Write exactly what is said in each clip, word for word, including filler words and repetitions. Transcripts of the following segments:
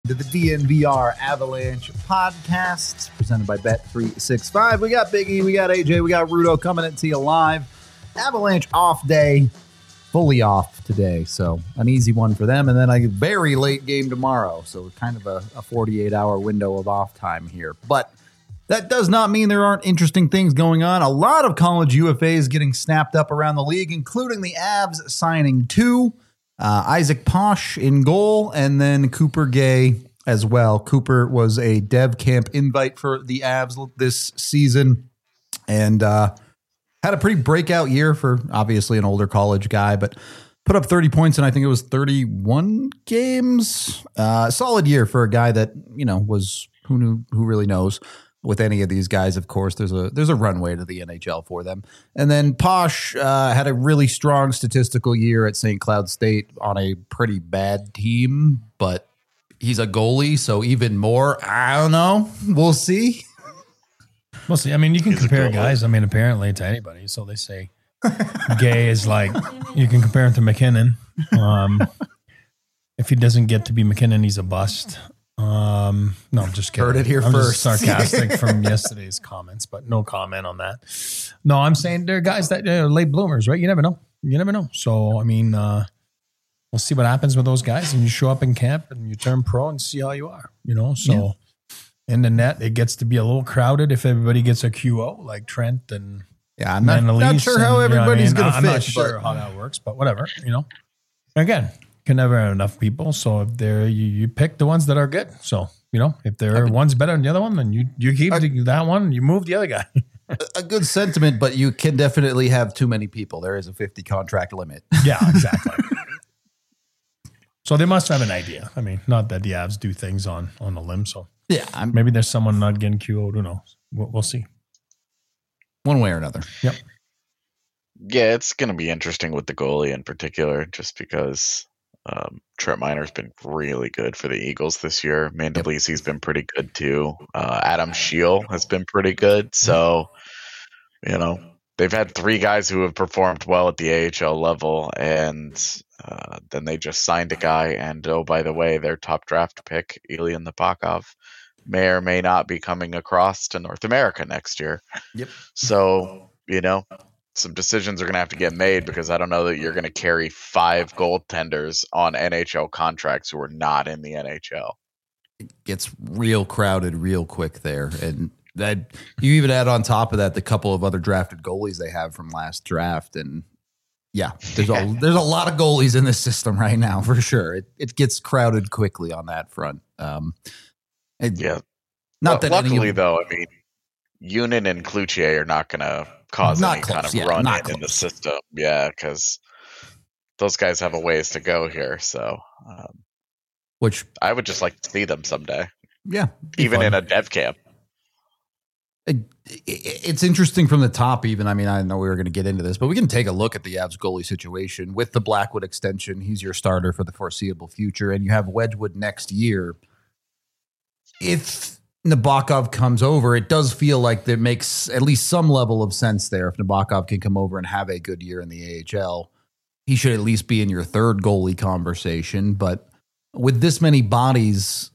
To the D N V R Avalanche podcast presented by Bet three sixty-five. We got Biggie, we got A J, we got Rudo coming into you live. Avalanche off day, fully off today, so an easy one for them. And then a very late game tomorrow, so kind of a, a forty-eight hour window of off time here. But that does not mean there aren't interesting things going on. A lot of college U F As getting snapped up around the league, including the Avs signing two. Uh, Isaac Posh in goal, and then Cooper Gay as well. Cooper was a dev camp invite for the Avs this season, and uh, had a pretty breakout year for obviously an older college guy, but put up thirty points in I think it was thirty-one games. Uh, solid year for a guy that, you know, was who knew who really knows. With any of these guys, of course, there's a there's a runway to the N H L for them. And then Posh uh, had a really strong statistical year at Saint Cloud State on a pretty bad team, but he's a goalie, so even more. I don't know. We'll see. We'll see. I mean, you can he's compare guys. I mean, apparently to anybody. So they say Gay is like you can compare him to McKinnon. Um, if he doesn't get to be McKinnon, he's a bust. Um, no, I'm just kidding. Heard it here I'm first. Just sarcastic from yesterday's comments, but no comment on that. No, I'm saying there are guys that are late bloomers, right? You never know. You never know. So, I mean, uh, we'll see what happens with those guys, and you show up in camp and you turn pro and see how you are, you know? So yeah. In the net, it gets to be a little crowded if everybody gets a Q O like Trent and yeah, I'm not, not sure how and, everybody's you know going to fit. I'm not sure how that works, but whatever, you know? Again, can never have enough people. So if they're, you, you pick the ones that are good. So, you know, if there are one's better than the other one, then you, you keep I, that one, you move the other guy. A good sentiment, but you can definitely have too many people. There is a fifty contract limit. Yeah, exactly. So they must have an idea. I mean, not that the Avs do things on, on a limb. So yeah, I'm, maybe there's someone not getting Q O'd. Who knows? We'll, we'll see. One way or another. Yep. Yeah, it's going to be interesting with the goalie in particular, just because Um, Trent Miner's been really good for the Eagles this year. Mandolisi's yep. been pretty good too. Uh, Adam Scheel has been pretty good. So, you know, they've had three guys who have performed well at the A H L level, and uh, then they just signed a guy. And oh, by the way, their top draft pick, Ilya Nabokov, may or may not be coming across to North America next year. Yep. So, you know, some decisions are going to have to get made, because I don't know that you're going to carry five goaltenders on N H L contracts who are not in the N H L. It gets real crowded real quick there. And that you even add on top of that the couple of other drafted goalies they have from last draft. And yeah, there's a, there's a lot of goalies in this system right now for sure. It it gets crowded quickly on that front. Um, it, yeah. Not well, that luckily, of, though, I mean, Unin and Cloutier are not going to cause not any close, kind of yeah, run in, in the system. Yeah, because those guys have a ways to go here. So, um, which I would just like to see them someday. Yeah. Even fun. in a dev camp. It, it, it's interesting from the top even. I mean, I know we were going to get into this, but we can take a look at the Avs goalie situation with the Blackwood extension. He's your starter for the foreseeable future, and you have Wedgwood next year. If Nabokov comes over, it does feel like there makes at least some level of sense there. If Nabokov can come over and have a good year in the A H L, he should at least be in your third goalie conversation. But with this many bodies,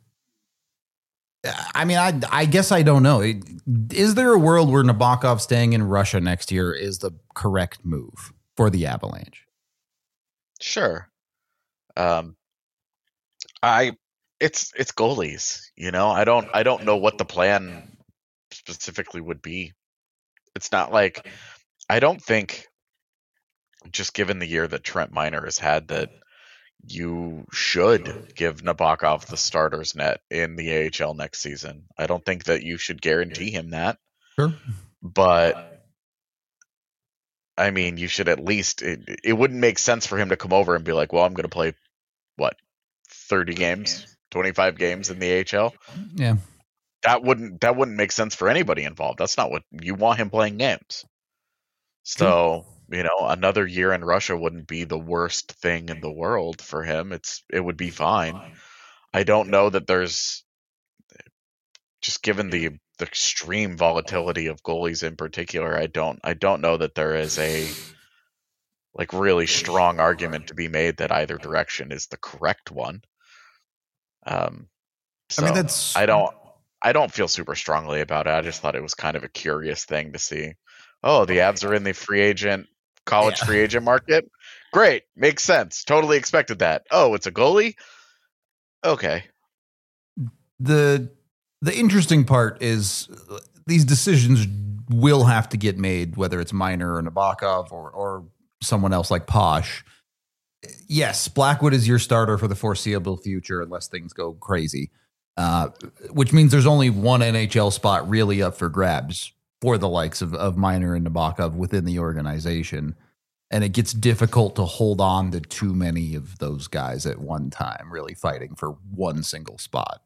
I mean, I I guess I don't know. Is there a world where Nabokov staying in Russia next year is the correct move for the Avalanche? Sure. Um, I it's it's goalies. You know, I don't I don't know what the plan specifically would be. It's not like I don't think, just given the year that Trent Miner has had, that you should give Nabokov the starter's net in the A H L next season. I don't think that you should guarantee him that. Sure. But I mean, you should at least, it, it wouldn't make sense for him to come over and be like, well, I'm going to play, what, thirty games, twenty-five games in the A H L? Yeah. That wouldn't, that wouldn't make sense for anybody involved. That's not what you want him playing games. So, you know, another year in Russia wouldn't be the worst thing in the world for him. It's, it would be fine. I don't know that there's, just given the, the extreme volatility of goalies in particular, I don't, I don't know that there is a like really strong argument to be made that either direction is the correct one. Um, So I mean, that's I don't I don't feel super strongly about it. I just thought it was kind of a curious thing to see. Oh, the Avs are in the free agent college Yeah. free agent market. Great, makes sense. Totally expected that. Oh, it's a goalie. Okay. the the interesting part is uh, these decisions will have to get made, whether it's Minor or Nabokov or or someone else like Posh. Yes, Blackwood is your starter for the foreseeable future unless things go crazy, uh, which means there's only one N H L spot really up for grabs for the likes of, of Minor and Nabokov within the organization. And it gets difficult to hold on to too many of those guys at one time, really fighting for one single spot.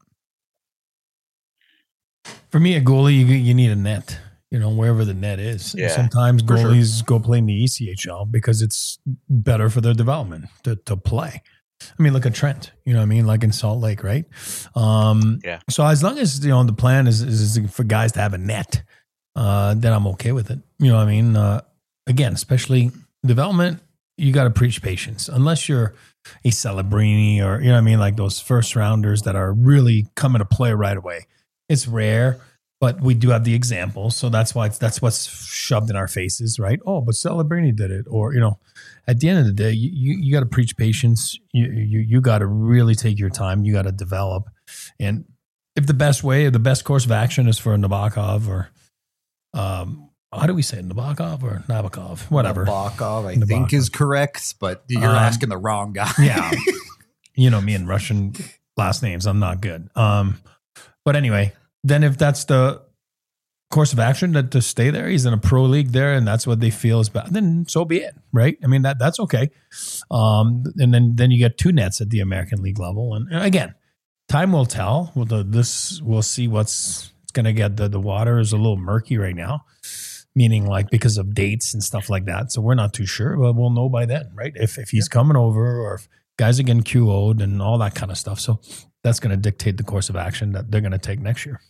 For me, a goalie, you you need a net. You know, wherever the net is. Yeah, Sometimes for sure. goalies go play in the E C H L because it's better for their development to to play. I mean, look at Trent. You know what I mean? Like in Salt Lake, right? Um, Yeah. So as long as you know the plan is is for guys to have a net, uh, then I'm okay with it. You know what I mean? Uh, again, especially development, you got to preach patience. Unless you're a Celebrini or you know what I mean, like those first rounders that are really coming to play right away. It's rare. But we do have the example, so that's why it's, that's what's shoved in our faces, right? Oh, but Celebrini did it, or you know, at the end of the day, you you, you got to preach patience. You you you got to really take your time. You got to develop, and if the best way, the best course of action is for Nabokov or, um, how do we say it, Nabokov or Nabokov, whatever. Nabokov, I Nabokov. think is correct, but you're Um, asking the wrong guy. Yeah, you know me and Russian last names, I'm not good. Um, but anyway. Then if that's the course of action that to stay there, he's in a pro league there and that's what they feel is bad, then so be it, right? I mean, that that's okay. Um, and then then you get two nets at the American League level. And, and again, time will tell. Well, the, this we'll see what's it's going to get. The, the water is a little murky right now, meaning like because of dates and stuff like that. So we're not too sure, but we'll know by then, right? If, if he's coming over or if guys are getting Q O'd and all that kind of stuff. So that's going to dictate the course of action that they're going to take next year.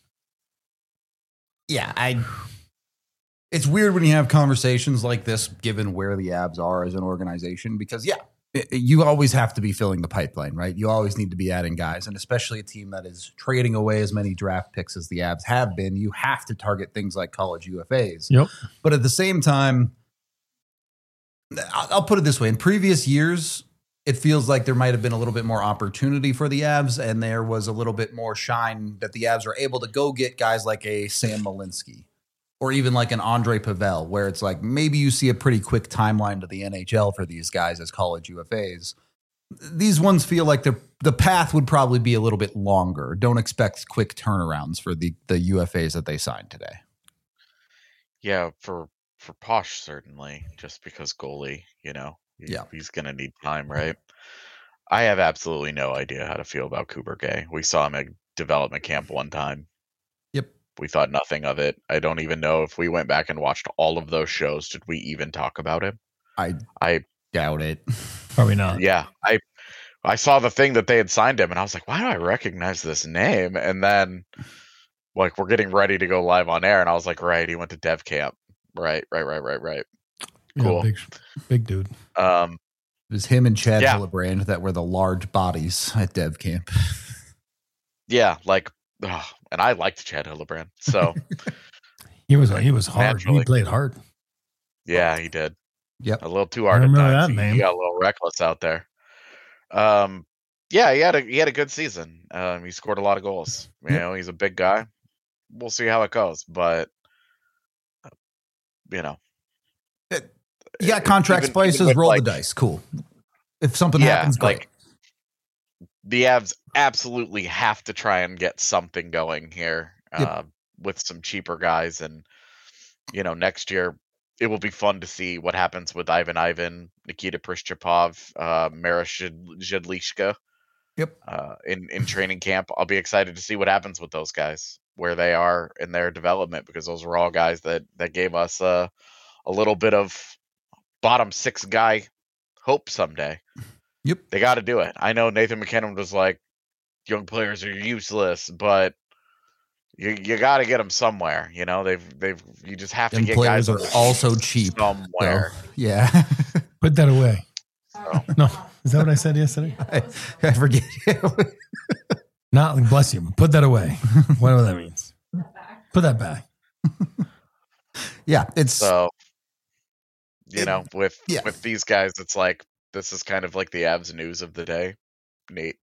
Yeah, I. It's weird when you have conversations like this, given where the Abs are as an organization, because yeah, it, you always have to be filling the pipeline, right? You always need to be adding guys, and especially a team that is trading away as many draft picks as the Abs have been, you have to target things like college U F As. Yep. But at the same time, I'll, I'll put it this way: in previous years, it feels like there might have been a little bit more opportunity for the Avs, and there was a little bit more shine that the Avs were able to go get guys like a Sam Malinsky or even like an Andre Pavel, where it's like maybe you see a pretty quick timeline to the N H L for these guys as college U F As. These ones feel like the the path would probably be a little bit longer. Don't expect quick turnarounds for the, the U F As that they signed today. Yeah, for for Posh certainly, just because goalie, you know. He, Yeah. he's going to need time, right? I have absolutely no idea how to feel about Cooper Gay. We saw him at development camp one time. Yep. We thought nothing of it. I don't even know if we went back and watched all of those shows. Did we even talk about him? I I doubt it. Probably not. yeah. I I saw the thing that they had signed him, and I was like, why do I recognize this name? And then, like, we're getting ready to go live on air, and I was like, right, he went to dev camp. Right, right, right, right, right. Cool. Yeah, big, big dude. Um, It was him and Chad Yeah. Hillebrand that were the large bodies at Dev Camp. yeah, like, ugh, and I liked Chad Hillebrand, so He was he was hard. Naturally. He played hard. yeah, he did. Yep. A little too hard I at remember times. that He, name. he got a little reckless out there. Um, yeah, he had a he had a good season. Um, he scored a lot of goals. You Yep. know, he's a big guy. We'll see how it goes, but uh, you know, You got contract even- spices, even with, roll like- the dice. Cool. If something yeah, happens, great. like the Avs absolutely have to try and get something going here Yep. uh, with some cheaper guys, and you know, next year it will be fun to see what happens with Ivan Ivan, Nikita Prishchapov, uh, Mara Zhedlishka. Yep. Uh, in in training camp, I'll be excited to see what happens with those guys, where they are in their development, because those were all guys that that gave us uh, a little bit of bottom six guy hope someday. Yep. They got to do it. I know Nathan McKinnon was like, young players are useless, but you you got to get them somewhere. You know, they've they've you just have to And get players guys are that also cheap. somewhere. So, yeah. Put that away. So, No, is that what I said yesterday? I, I forget. Not bless you. Put that away. Whatever that means. Put that back. Yeah, it's So, you It- know, with yeah. with these guys, it's like this is kind of like the Avs news of the day. Neat.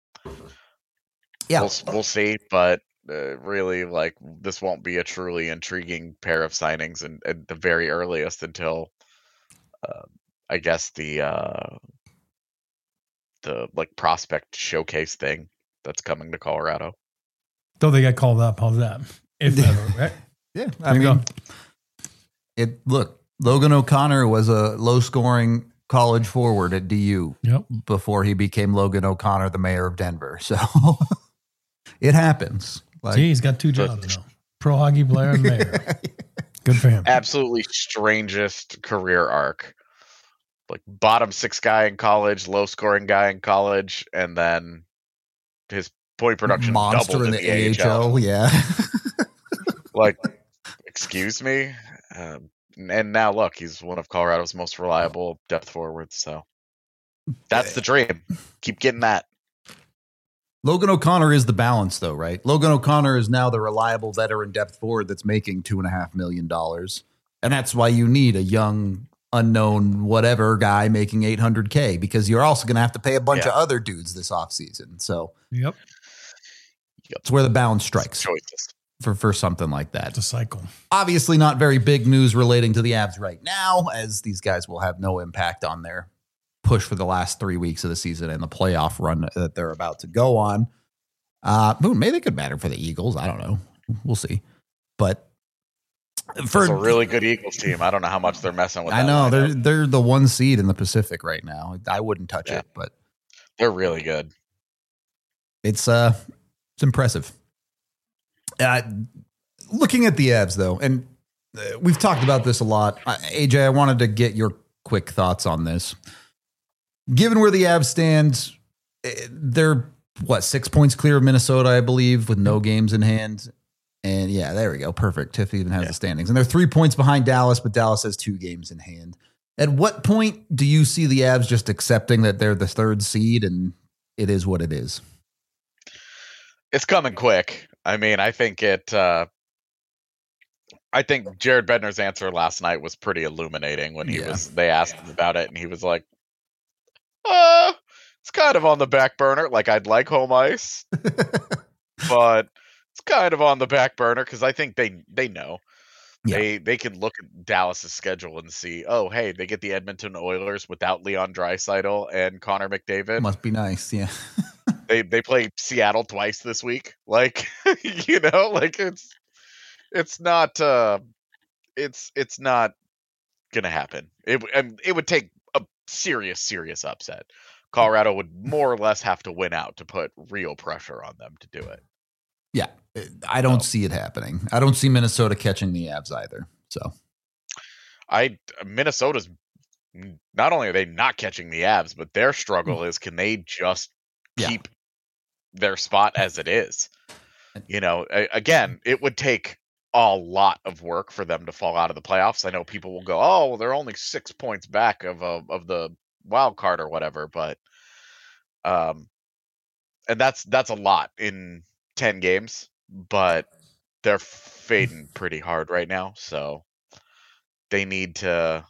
yeah. We'll we'll see, but uh, really, like this won't be a truly intriguing pair of signings, and at the very earliest until, uh, I guess the uh, the like prospect showcase thing that's coming to Colorado. Though they got called up, how's that? If ever, right? Yeah, I There you mean, go. it. Look, Logan O'Connor was a low-scoring college forward at D U Yep. before he became Logan O'Connor, the mayor of Denver. So it happens. Like, See, he's got two jobs now. Pro hockey player and mayor. Good for him. Absolutely strangest career arc. Like bottom six guy in college, low scoring guy in college, and then his point production monster doubled in the, A H L. Yeah. Like, excuse me. Um, and now look, he's one of Colorado's most reliable depth forwards. So that's the dream. Keep getting that. Logan O'Connor is the balance, though, right? Logan O'Connor is now the reliable veteran depth forward that's making two and a half million dollars, and that's why you need a young, unknown, whatever guy making eight hundred K, because you're also going to have to pay a bunch Yeah. of other dudes this offseason. So Yep. it's where the balance strikes Choices. for for something like that. It's a cycle. Obviously, not very big news relating to the Avs right now, as these guys will have no impact on their push for the last three weeks of the season and the playoff run that they're about to go on. Uh, but maybe they could matter for the Eagles. I don't know. We'll see. But for It's a really good Eagles team. I don't know how much they're messing with. I that know lineup. they're they're the one seed in the Pacific right now. I wouldn't touch Yeah. it, but They're really good. it's uh it's impressive. Uh, looking at the Avs though, and uh, we've talked about this a lot. Uh, A J, I wanted to get your quick thoughts on this. Given where the Avs stand, eh, they're what six points clear of Minnesota, I believe, with no games in hand. And yeah, there we go. Perfect. Tiff even has Yeah. the standings, and they're three points behind Dallas, but Dallas has two games in hand. At what point do you see the Avs just accepting that they're the third seed and it is what it is? It's coming quick. I mean, I think it. Uh, I think Jared Bednar's answer last night was pretty illuminating when he Yeah. was. They asked him about it, and he was like, "Uh, it's kind of on the back burner. Like I'd like home ice, but it's kind of on the back burner because I think they they know Yeah. they they can look at Dallas's schedule and see. Oh, hey, they get the Edmonton Oilers without Leon Draisaitl and Connor McDavid. Must be nice. Yeah. they they play Seattle twice this week. Like you know, like it's it's not uh it's it's not gonna happen. It w- and it would take a serious serious upset. Colorado would more or less have to win out to put real pressure on them to do it. Yeah. I don't No. see it happening. I don't see Minnesota catching the Avs either. So I Minnesota's not only are they not catching the Avs, but their struggle is can they just Yeah. keep their spot as it is? You know, a- again, it would take a lot of work for them to fall out of the playoffs. I know people will go, "Oh, well, they're only six points back of a, of the wild card or whatever," but um, and that's that's a lot in ten games, but they're fading pretty hard right now, so they need to.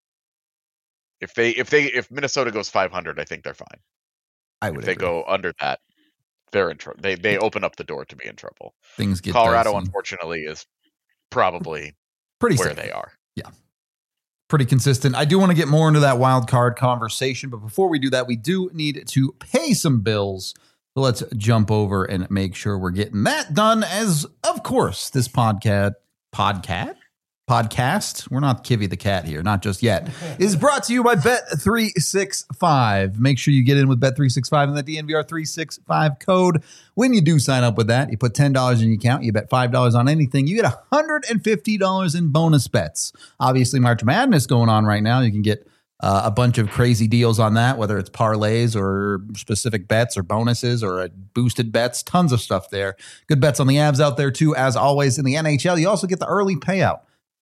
If they if they if Minnesota goes five hundred, I think they're fine. I If would they agree. go under that, they're in trouble. They they open up the door to be in trouble. Things get Colorado, dicey. unfortunately, is probably pretty where safe. they are. Pretty consistent. I do want to get more into that wild card conversation, but before we do that, we do need to pay some bills. So let's jump over and make sure we're getting that done. As of course, this podcast, podcast, podcast. We're not Kivy the cat here, not just yet. Is brought to you by Bet three sixty-five. Make sure you get in with Bet three sixty-five and the D N V R three sixty-five code. When you do sign up with that, you put ten dollars in your account, you bet five dollars on anything, you get one hundred fifty dollars in bonus bets. Obviously, March Madness going on right now. You can get uh, a bunch of crazy deals on that, whether it's parlays or specific bets or bonuses or uh, boosted bets, tons of stuff there. Good bets on the Avs out there too. As always in the N H L, you also get the early payout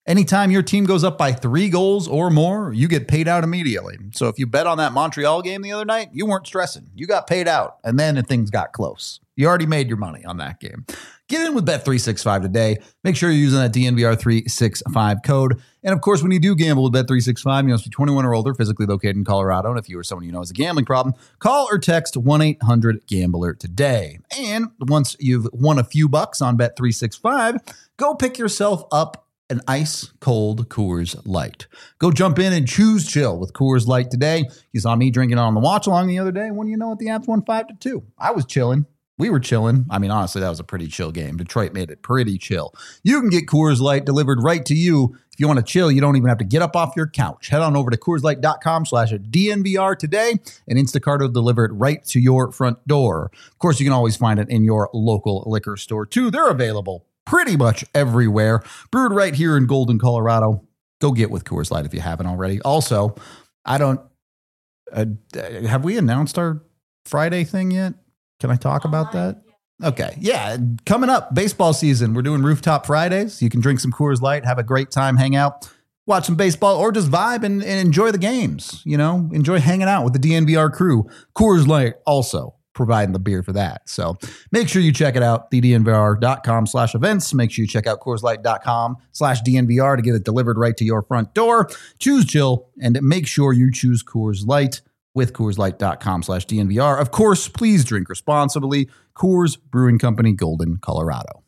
Anytime your team goes up by three goals or more, you get paid out immediately. So if you bet on that Montreal game the other night, you weren't stressing. You got paid out, and then things got close. You already made your money on that game. Get in with Bet three sixty-five today. Make sure you're using that D N V R three sixty-five code. And of course, when you do gamble with Bet three sixty-five, you must be twenty-one or older, physically located in Colorado. And if you or someone you know has a gambling problem, call or text one eight hundred gambler today. And once you've won a few bucks on Bet three sixty-five, go pick yourself up an ice cold Coors Light. Go jump in and choose chill with Coors Light today. You saw me drinking it on the watch along the other day. When you know what, the Avs won five to two. I was chilling. We were chilling. I mean, honestly, that was a pretty chill game. Detroit made it pretty chill. You can get Coors Light delivered right to you. If you want to chill, you don't even have to get up off your couch. Head on over to CoorsLight.com slash DNVR today, and Instacart will deliver it right to your front door. Of course, you can always find it in your local liquor store, too. They're available pretty much everywhere. Brewed right here in Golden, Colorado. Go get with Coors Light if you haven't already. Also, I don't... Uh, have we announced our Friday thing yet? Can I talk about that? Okay. Yeah. Coming up, baseball season. We're doing Rooftop Fridays. You can drink some Coors Light, have a great time, hang out, watch some baseball, or just vibe and, and enjoy the games. You know, enjoy hanging out with the D N V R crew. Coors Light also providing the beer for that. So make sure you check it out, the DNVR.com slash events. Make sure you check out CoorsLight.com slash DNVR to get it delivered right to your front door. Choose chill and make sure you choose Coors Light with CoorsLight.com slash DNVR. Of course, please drink responsibly. Coors Brewing Company, Golden, Colorado.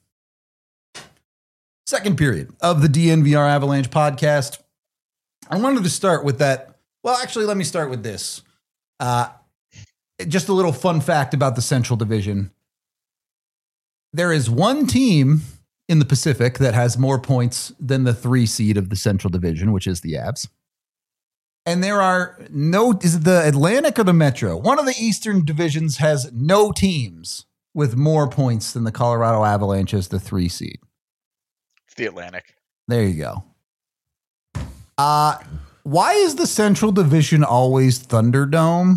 Second period of the D N V R Avalanche podcast. I wanted to start with that. Well, actually, let me start with this. Uh, just a little fun fact about the Central Division. There is one team in the Pacific that has more points than the three seed of the Central Division, which is the Avs. And there are no, is it the Atlantic or the Metro? One of the Eastern divisions has no teams with more points than the Colorado Avalanche as the three seed. It's the Atlantic. There you go. Uh, why is the Central Division always Thunderdome?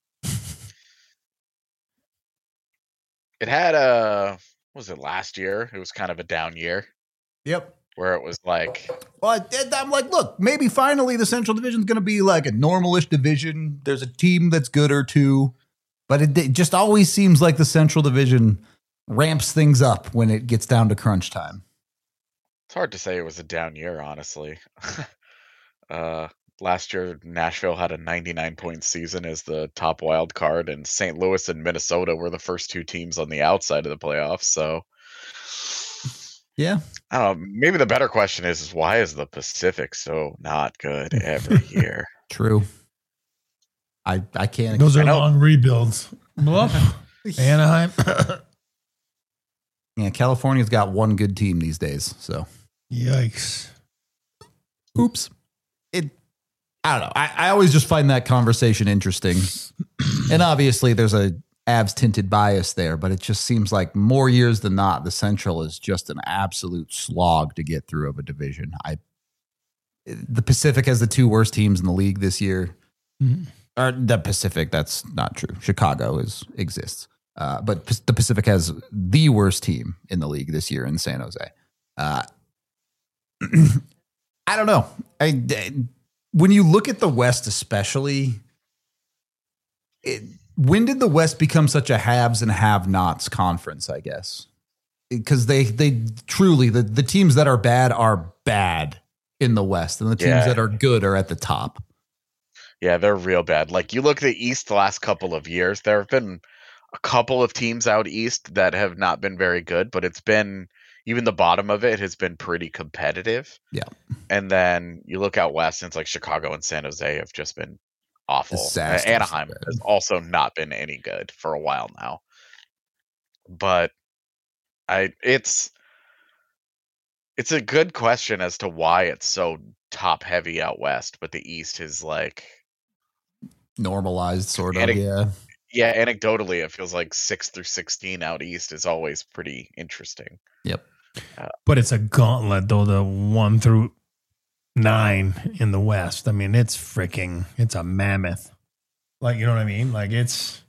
It had a, what was it, last year? It was kind of a down year. Yep. Where it was like, well, I'm like, look, maybe finally the Central Division is going to be like a normalish division. There's a team that's good or two, but it, it just always seems like the Central Division ramps things up when it gets down to crunch time. It's hard to say it was a down year, honestly. uh, last year, Nashville had a ninety-nine point season as the top wild card, and Saint Louis and Minnesota were the first two teams on the outside of the playoffs. So, yeah. I don't know. Maybe the better question is, is why is the Pacific so not good every year? True. I I can't. Those are long rebuilds. Anaheim. Yeah, California's got one good team these days. So, yikes. Oops. It. I don't know. I, I always just find that conversation interesting, and obviously there's a Avs tinted bias there, but it just seems like more years than not, the Central is just an absolute slog to get through of a division. I, the Pacific has the two worst teams in the league this year. Mm-hmm. Or the Pacific, that's not true. Chicago is exists, uh, but P- the Pacific has the worst team in the league this year in San Jose. Uh, I don't know. I, when you look at the West, especially, it. When did the West become such a haves and have-nots conference, I guess? Because they they truly, the, the teams that are bad are bad in the West, and the teams yeah. that are good are at the top. Yeah, they're real bad. Like, you look at the East the last couple of years, there have been a couple of teams out East that have not been very good, but it's been, even the bottom of it has been pretty competitive. Yeah. And then you look out West, and it's like Chicago and San Jose have just been awful. Uh, Anaheim has also not been any good for a while now. But I it's it's a good question as to why it's so top heavy out West, but the East is like normalized sort of. Anec- yeah. Yeah, anecdotally it feels like six through sixteen out East is always pretty interesting. Yep. Uh, but it's a gauntlet though, the one through nine in the West. I mean, it's freaking, it's a mammoth. Like, you know what I mean? Like, it's,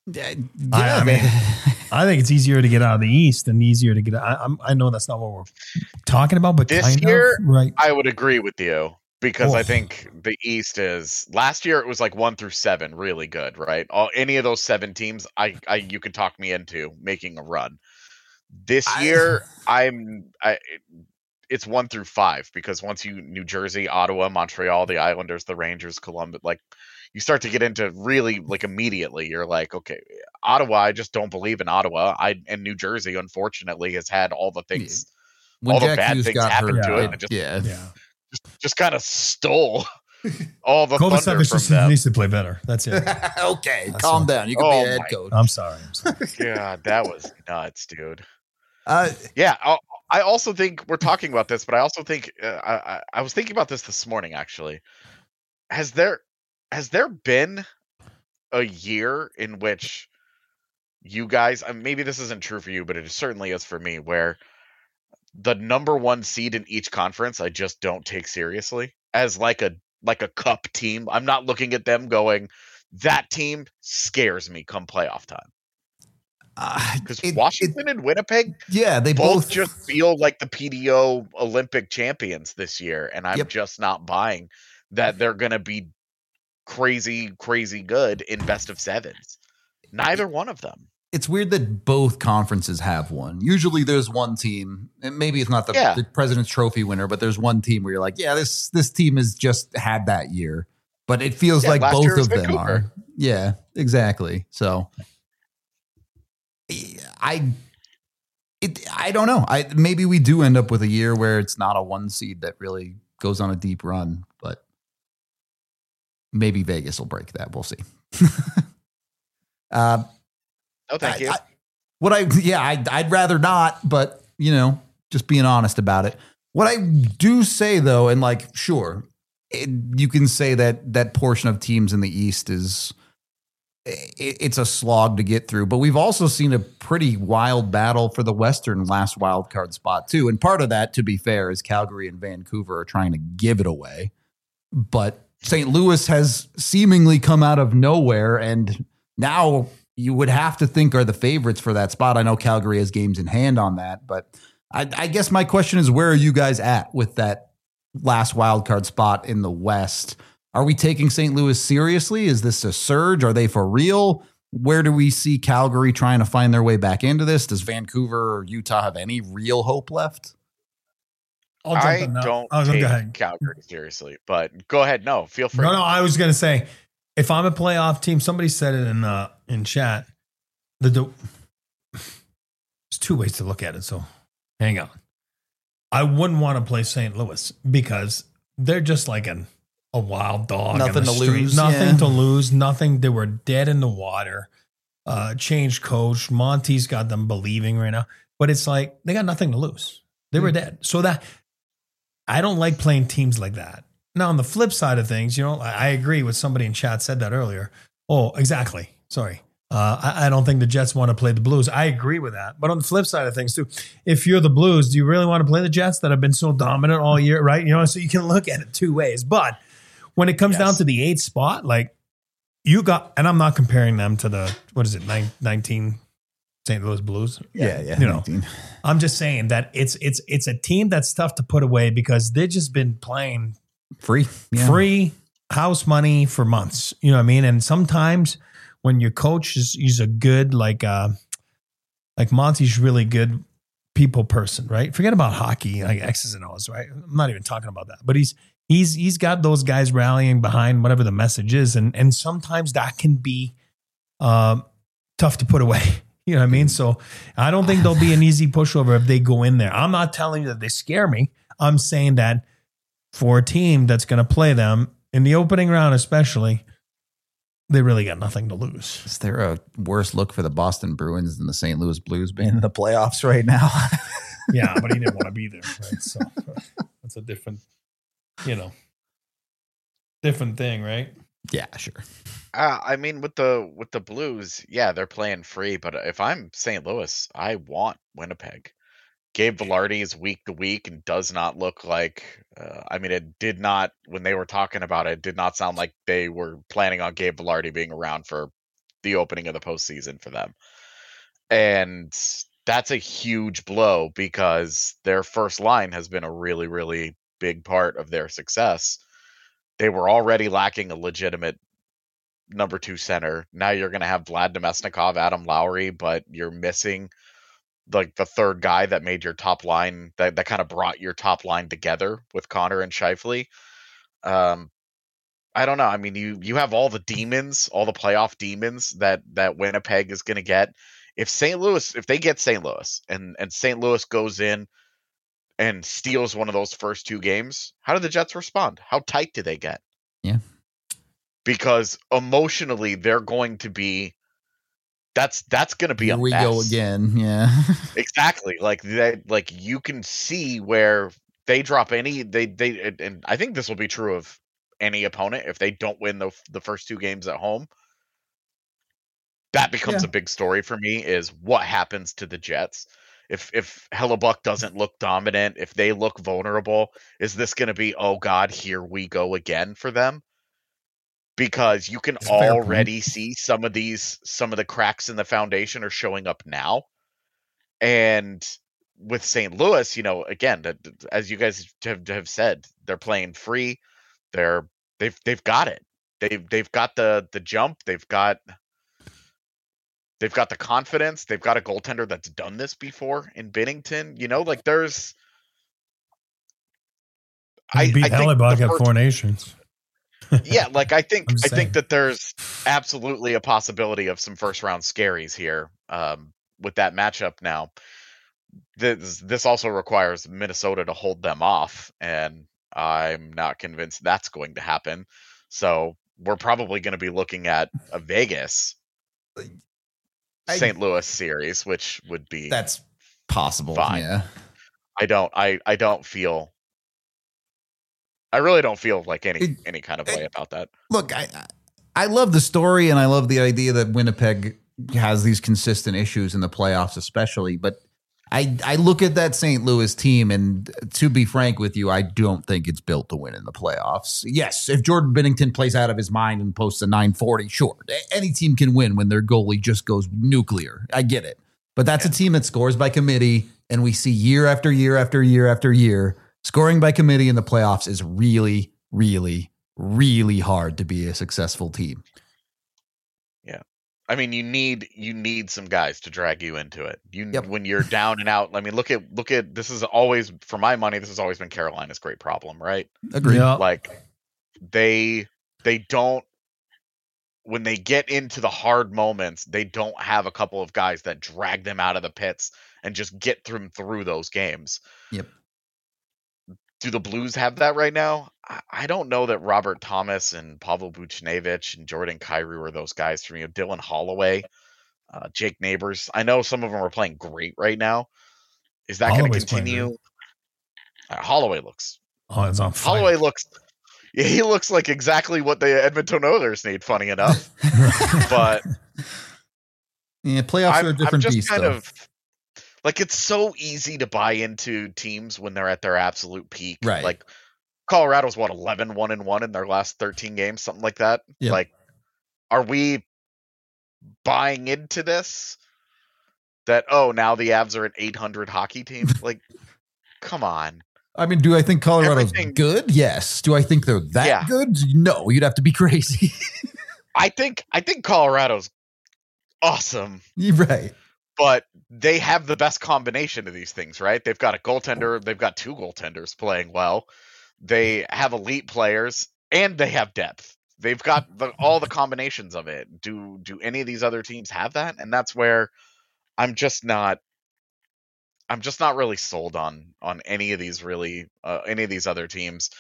Yeah, I, I mean, I think it's easier to get out of the East and easier to get. I, I'm, I know that's not what we're talking about, but This kind year, of, right? I would agree with you because Oh. I think the East is last year it was like one through seven, really good, right? All any of those seven teams, I, I you could talk me into making a run. This I- year, I'm I. It's one through five because once you New Jersey, Ottawa, Montreal, the Islanders, the Rangers, Columbus, like you start to get into really like immediately. You're like, okay, Ottawa. I just don't believe in Ottawa. I and New Jersey, unfortunately, has had all the things, when all the Jack bad Hughes things got happen hurt, to it. it- and just, yeah. Yeah. just just kind of stole all the Kovacevic thunder from just them. needs to play better. That's it. okay, That's calm all. down. You can Oh be a head my coach. I'm sorry. I'm sorry. God, that was nuts, dude. Uh, Yeah, I, I also think we're talking about this, but I also think uh, I, I I was thinking about this this morning. Actually, has there has there been a year in which you guys, uh, maybe this isn't true for you, but it certainly is for me, where the number one seed in each conference I just don't take seriously as like a like a cup team. I'm not looking at them going, that team scares me come playoff time. uh, Because it- Washington and Winnipeg yeah, they both, both, just feel like the P D O Olympic champions this year, and I'm Yep. just not buying that they're going to be crazy, crazy good in best of sevens. Neither one of them. It's weird that both conferences have one. Usually, there's one team, and maybe it's not the, Yeah. the President's Trophy winner, but there's one team where you're like, yeah, this this team has just had that year. But it feels Yeah, like last year both was of them Vancouver. are. Yeah, exactly. So, I. It, I don't know. I maybe we do end up with a year where it's not a one seed that really goes on a deep run, but maybe Vegas will break that. We'll see. uh, No, thank I- you. I- what I yeah, I, I'd rather not, but you know, just being honest about it. What I do say though, and like, sure, it, you can say that that portion of teams in the East is it, it's a slog to get through, but we've also seen a pretty wild battle for the Western last wild card spot too. And part of that, to be fair, is Calgary and Vancouver are trying to give it away, but Saint Louis has seemingly come out of nowhere and now you would have to think are the favorites for that spot. I know Calgary has games in hand on that, but I, I guess my question is, where are you guys at with that last wild card spot in the West? Are we taking Saint Louis seriously? Is this a surge? Are they for real? Where do we see Calgary trying to find their way back into this? Does Vancouver or Utah have any real hope left? I'll jump I in now. don't Oh, take go ahead. Calgary seriously, but go ahead. No, feel free. No, no. I was gonna say, if I'm a playoff team, somebody said it in uh, in chat. The, the there's two ways to look at it. So, hang on. I wouldn't want to play Saint Louis because they're just like an a wild dog. in Nothing the to street. lose, Nothing yeah. to lose. Nothing. They were dead in the water. Uh, changed coach. Monty's got them believing right now, but it's like they got nothing to lose. They were dead. So that I don't like playing teams like that. Now, on the flip side of things, you know, I, I agree with somebody in chat said that earlier. Oh, exactly. Sorry. Uh, I, I don't think the Jets want to play the Blues. I agree with that. But on the flip side of things, too, if you're the Blues, do you really want to play the Jets that have been so dominant all year, right? You know, so you can look at it two ways. But when it comes Yes. down to the eighth spot, like you got, and I'm not comparing them to the, what is it, nine, nineteen Saint Louis Blues. Yeah, yeah. You know, nineteen. I'm just saying that it's it's it's a team that's tough to put away because they've just been playing Free. Yeah. free house money for months. You know what I mean? And sometimes when your coach is he's a good like uh like Monty's really good people person, right? Forget about hockey, like X's and O's, right? I'm not even talking about that. But he's he's he's got those guys rallying behind whatever the message is, and and sometimes that can be um tough to put away. You know what I mean? So I don't think there'll be an easy pushover if they go in there. I'm not telling you that they scare me. I'm saying that for a team that's going to play them in the opening round, especially, they really got nothing to lose. Is there a worse look for the Boston Bruins than the Saint Louis Blues being in the playoffs right now? Yeah, but he didn't want to be there, right? So that's a different, you know, different thing, right? Yeah, sure. Uh, I mean, with the with the Blues, yeah, they're playing free. But if I'm Saint Louis, I want Winnipeg. Gabe Velarde is week to week and does not look like. Uh, I mean, it did not when they were talking about it. it. Did not sound like they were planning on Gabe Velarde being around for the opening of the postseason for them. And that's a huge blow because their first line has been a really, really big part of their success. They were already lacking a legitimate number two center. Now you're going to have Vlad Nemesnikov, Adam Lowry, but you're missing like the third guy that made your top line, that, that kind of brought your top line together with Connor and Scheifele. Um, I don't know. I mean, you you have all the demons, all the playoff demons that that Winnipeg is going to get. If Saint Louis, if they get Saint Louis and, and Saint Louis goes in and steals one of those first two games, how do the Jets respond? How tight do they get? Yeah. Because emotionally, they're going to be, that's that's going to be Here a we mess. go again. Yeah. Exactly. Like that, like you can see where they drop any, they, they, and- and I think this will be true of any opponent. If they don't win the, the first two games at home, that becomes Yeah. a big story for me, is what happens to the Jets. If if Hellebuck doesn't look dominant, if they look vulnerable, is this going to be, oh God, here we go again for them? Because you can That's a fair point. already see some of these, some of the cracks in the foundation are showing up now. And with Saint Louis, you know, again, that- as you guys have, have said, they're playing free. They're they've they've got it. They've they've got the the jump. They've got they've got the confidence. They've got a goaltender that's done this before in Binnington. You know, like there's. I beat think the Hellebuck at first- Four Nations. yeah, like I think I'm I saying. think that there's absolutely a possibility of some first round scaries here um, with that matchup. Now, this this also requires Minnesota to hold them off, and I'm not convinced that's going to happen. So we're probably going to be looking at a Vegas I- Saint Louis series, which would be. That's possible. Fine. Yeah. I don't. I I don't feel. I really don't feel like any It- any kind of it- way about that. Look, I I love the story and I love the idea that Winnipeg has these consistent issues in the playoffs, especially. But I I look at that Saint Louis team, and to be frank with you, I don't think it's built to win in the playoffs. Yes, if Jordan Binnington plays out of his mind and posts a nine forty, sure, any team can win when their goalie just goes nuclear. I get it, but that's a team that scores by committee, and we see year after year after year after year. Scoring by committee in the playoffs is really, really, really hard to be a successful team. I mean, you need you need some guys to drag you into it. You Yep. when you're down and out. I mean, look at look at this is always, for my money, this has always been Carolina's great problem, right? Agreed. Yeah. Like they they don't, when they get into the hard moments, they don't have a couple of guys that drag them out of the pits and just get them through those games. Yep. Do the Blues have that right now? I- I don't know that Robert Thomas and Pavel Buchnevich and Jordan Kyrou were those guys for me. Dylan Holloway, uh, Jake Neighbors. I know some of them are playing great right now. Is that going to Holloway's playing continue? Uh, Holloway looks. Oh, it's on fire. Holloway looks. Yeah, he looks like exactly what the Edmonton Oilers need. Funny enough, but Yeah, playoffs I'm, are a I'm different just beast, kind though. of like, it's so easy to buy into teams when they're at their absolute peak. Right. Like Colorado's what, eleven one and one in their last thirteen games, something like that. Yep. Like, are we buying into this? That, oh, now the Avs are an eight hundred hockey team? Like, come on. I mean, do I think Colorado's Everything- good? Yes. Do I think they're that Yeah. good? No, you'd have to be crazy. I think I think Colorado's awesome, You're right. but they have the best combination of these things, right? They've got a goaltender, they've got two goaltenders playing well. They have elite players, and they have depth. They've got the, all the combinations of it. Do do any of these other teams have that? And that's where I'm just not. I'm just not really sold on on any of these really uh, any of these other teams,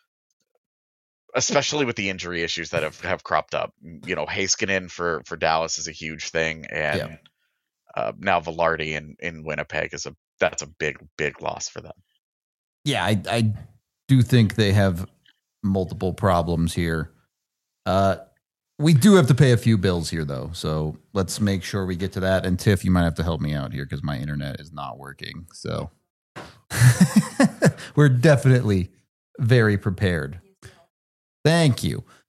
especially with the injury issues that have, have cropped up. You know, Heiskanen for for Dallas is a huge thing, and Yeah. uh, now Velarde in in Winnipeg is a that's a big big loss for them. Yeah, I, I do think they have multiple problems here. Uh, we do have to pay a few bills here, though. So let's make sure we get to that. And Tiff, you might have to help me out here because my internet is not working. So we're definitely very prepared. Thank you.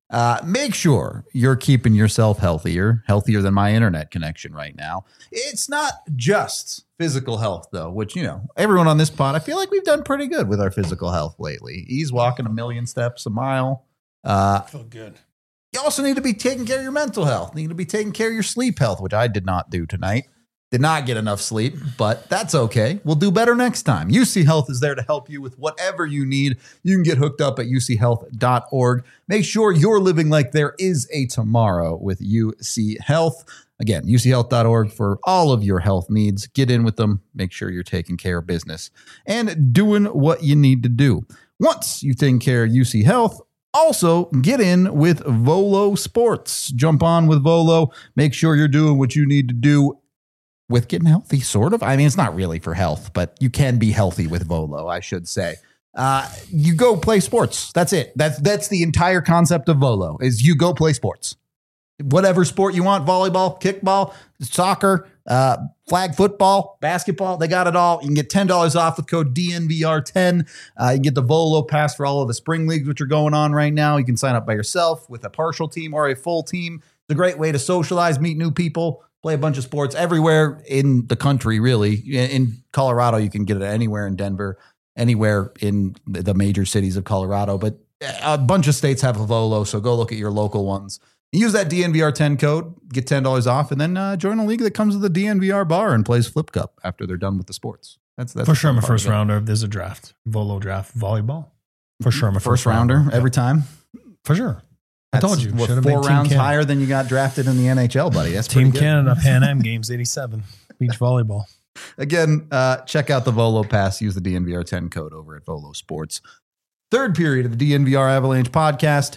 Uh, make sure you're keeping yourself healthier, healthier than my internet connection right now. It's not just physical health, though, which, you know, everyone on this pod, I feel like we've done pretty good with our physical health lately. He's walking a million steps a mile. Uh, I feel good. You also need to be taking care of your mental health. You need to be taking care of your sleep health, which I did not do tonight. Did not get enough sleep, but that's okay. We'll do better next time. U C Health is there to help you with whatever you need. You can get hooked up at u c health dot org. Make sure you're living like there is a tomorrow with U C Health. Again, u c health dot org for all of your health needs. Get in with them. Make sure you're taking care of business and doing what you need to do. Once you've taken care of U C Health, also get in with Volo Sports. Jump on with Volo. Make sure you're doing what you need to do with getting healthy, sort of. I mean, it's not really for health, but you can be healthy with Volo, I should say. Uh, you go play sports. That's it. That's that's the entire concept of Volo, is you go play sports. Whatever sport you want, volleyball, kickball, soccer, uh, flag football, basketball, they got it all. You can get ten dollars off with code D N V R ten. Uh, you can get the Volo pass for all of the spring leagues, which are going on right now. You can sign up by yourself with a partial team or a full team. It's a great way to socialize, meet new people, play a bunch of sports everywhere in the country, really. In Colorado, you can get it anywhere in Denver, anywhere in the major cities of Colorado. But a bunch of states have a Volo, so go look at your local ones. Use that D N V R ten code, get ten dollars off, and then uh, join a league that comes with the D N V R bar and plays Flip Cup after they're done with the sports. That's, that's For sure, I'm a first rounder. If there's a draft, Volo draft, volleyball. For sure, I'm a first, first rounder, rounder every time. For sure. I That's, told you. what, Should've four been rounds Team Canada. higher than you got drafted in the N H L, buddy. That's Team pretty good. Canada, Pan Am Games, eighty-seven. Beach volleyball. Again, uh, check out the Volo Pass. Use the D N V R ten code over at Volo Sports. Third period of the D N V R Avalanche podcast.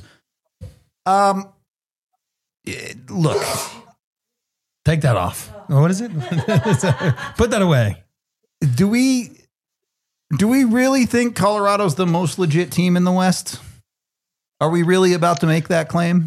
Um, it- look, Take that off. What is it? Put that away. do we do we really think Colorado's the most legit team in the West? Are we really about to make that claim?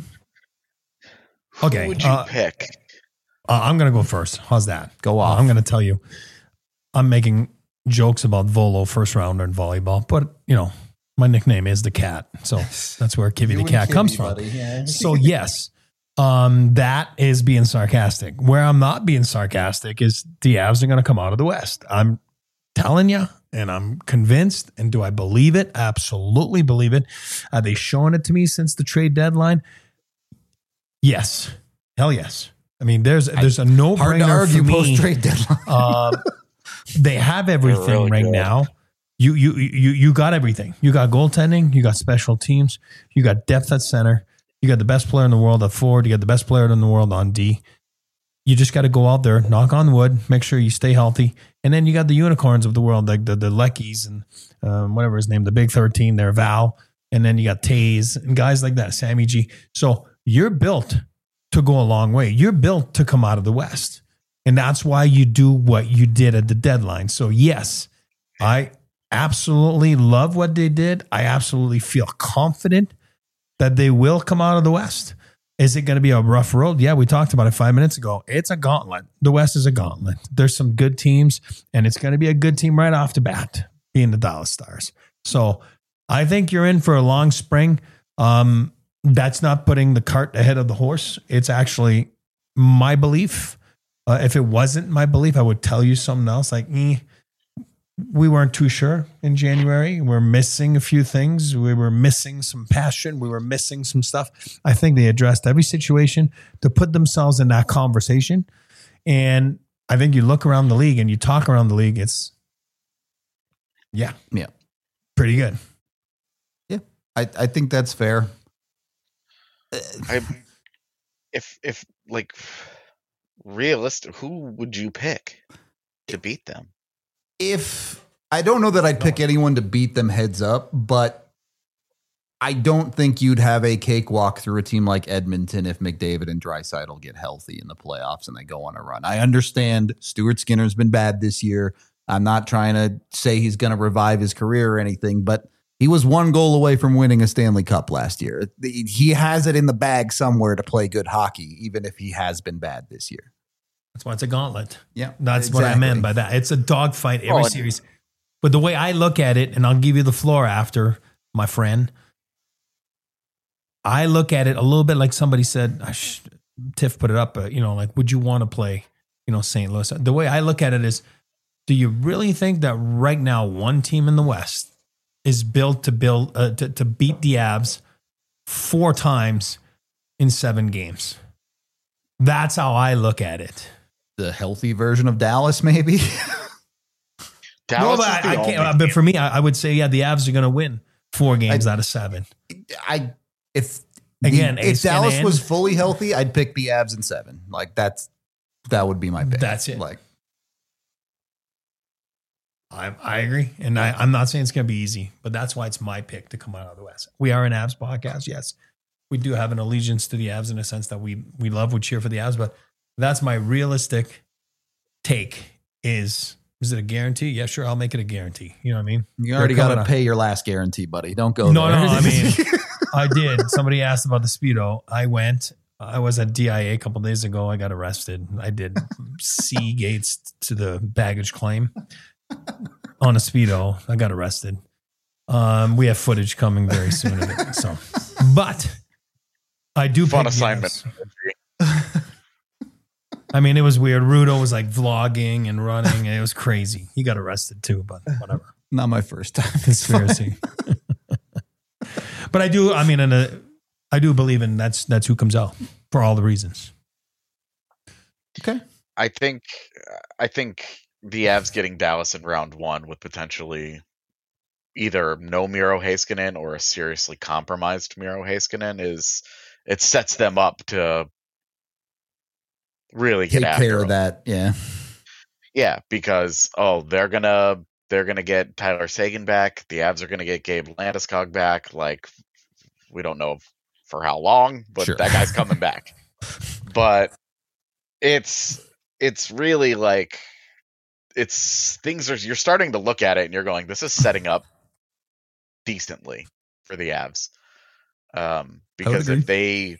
Okay. Who would you uh, pick? Uh, I'm going to go first. How's that? Go off. Uh, I'm going to tell you. I'm making jokes about Volo first rounder in volleyball, but, you know, my nickname is the Cat. So that's where Kivy You the and Cat Kivy, comes from. buddy, yeah. So, yes, um, that is being sarcastic. Where I'm not being sarcastic is the Avs are going to come out of the West. I'm telling you, and I'm convinced. And do I believe it? Absolutely believe it. Are they showing it to me since the trade deadline? Yes. Hell yes. I mean, there's there's a no Hard to brainer argue for me. post trade deadline. Um, they have everything really right good. now. You you you you got everything. You got goaltending. You got special teams. You got depth at center. You got the best player in the world at forward. You got the best player in the world on D. You just got to go out there, knock on wood, make sure you stay healthy, and then you got the unicorns of the world, like the the Leckies and um, whatever his name, the Big thirteen, there, Val, and then you got Taze and guys like that, Sammy G. So you're built to go a long way. You're built to come out of the West. And that's why you do what you did at the deadline. So yes, I absolutely love what they did. I absolutely feel confident that they will come out of the West. Is it going to be a rough road? Yeah, we talked about it five minutes ago. It's a gauntlet. The West is a gauntlet. There's some good teams, and it's going to be a good team right off the bat, being the Dallas Stars. So I think you're in for a long spring. Um, That's not putting the cart ahead of the horse. It's actually my belief. Uh, if it wasn't my belief, I would tell you something else. Like, eh, we weren't too sure in January. We're missing a few things. We were missing some passion. We were missing some stuff. I think they addressed every situation to put themselves in that conversation. And I think you look around the league and you talk around the league, it's, yeah, Yeah. pretty good. Yeah. I, I think that's fair. I, if if like realistic, who would you pick to beat them? If I don't know that I'd pick anyone to beat them heads up, but I don't think you'd have a cakewalk through a team like Edmonton if McDavid and Draisaitl get healthy in the playoffs and they go on a run. I understand Stuart Skinner's been bad this year. I'm not trying to say he's going to revive his career or anything, but he was one goal away from winning a Stanley Cup last year. He has it in the bag somewhere to play good hockey, even if he has been bad this year. That's why it's a gauntlet. Yeah, That's what I exactly. meant by that. It's a dogfight every Oh, and- series. But the way I look at it, and I'll give you the floor after, my friend, I look at it a little bit like somebody said, Tiff put it up, uh, you know, like, would you want to play, you know, Saint Louis? The way I look at it is, do you really think that right now one team in the West is built to build uh, to, to beat the Avs four times in seven games? That's how I look at it. The healthy version of Dallas, maybe. Dallas no, but I, I can't. But for me, I, I would say, yeah, the Avs are going to win four games I, out of seven. I if again, the, if Dallas was fully healthy, I'd pick the Avs in seven. Like that's that would be my pick. That's it. Like I I agree, and I, I'm not saying it's going to be easy, but that's why it's my pick to come out of the West. We are an Avs podcast, yes. We do have an allegiance to the Avs in a sense that we we love, we cheer for the Avs, but that's my realistic take. Is is it a guarantee? Yeah, sure, I'll make it a guarantee. You know what I mean? You already got to pay your last guarantee, buddy. Don't go no, there. No, no, I mean, I did. Somebody asked about the Speedo. I went. I was at D I A a couple days ago. I got arrested. I did C gates to the baggage claim on a Speedo. I got arrested. Um, we have footage coming very soon of it. So, but I do fun assignment. I mean, it was weird. Rudo was like vlogging and running, and it was crazy. He got arrested too, but whatever. Not my first time. Conspiracy. But I do. I mean, in a, I do believe in that's that's who comes out for all the reasons. Okay. I think I think the Avs getting Dallas in round one with potentially either no Miro Heiskanen or a seriously compromised Miro Heiskanen is it sets them up to really get take after care them. of that. Yeah. Yeah, because oh, they're gonna they're gonna get Tyler Seguin back. The Avs are gonna get Gabe Landeskog back. Like we don't know for how long, but sure. that guy's coming back. But it's it's really like it's things are you're starting to look at it and you're going, this is setting up decently for the Avs. Um, because if they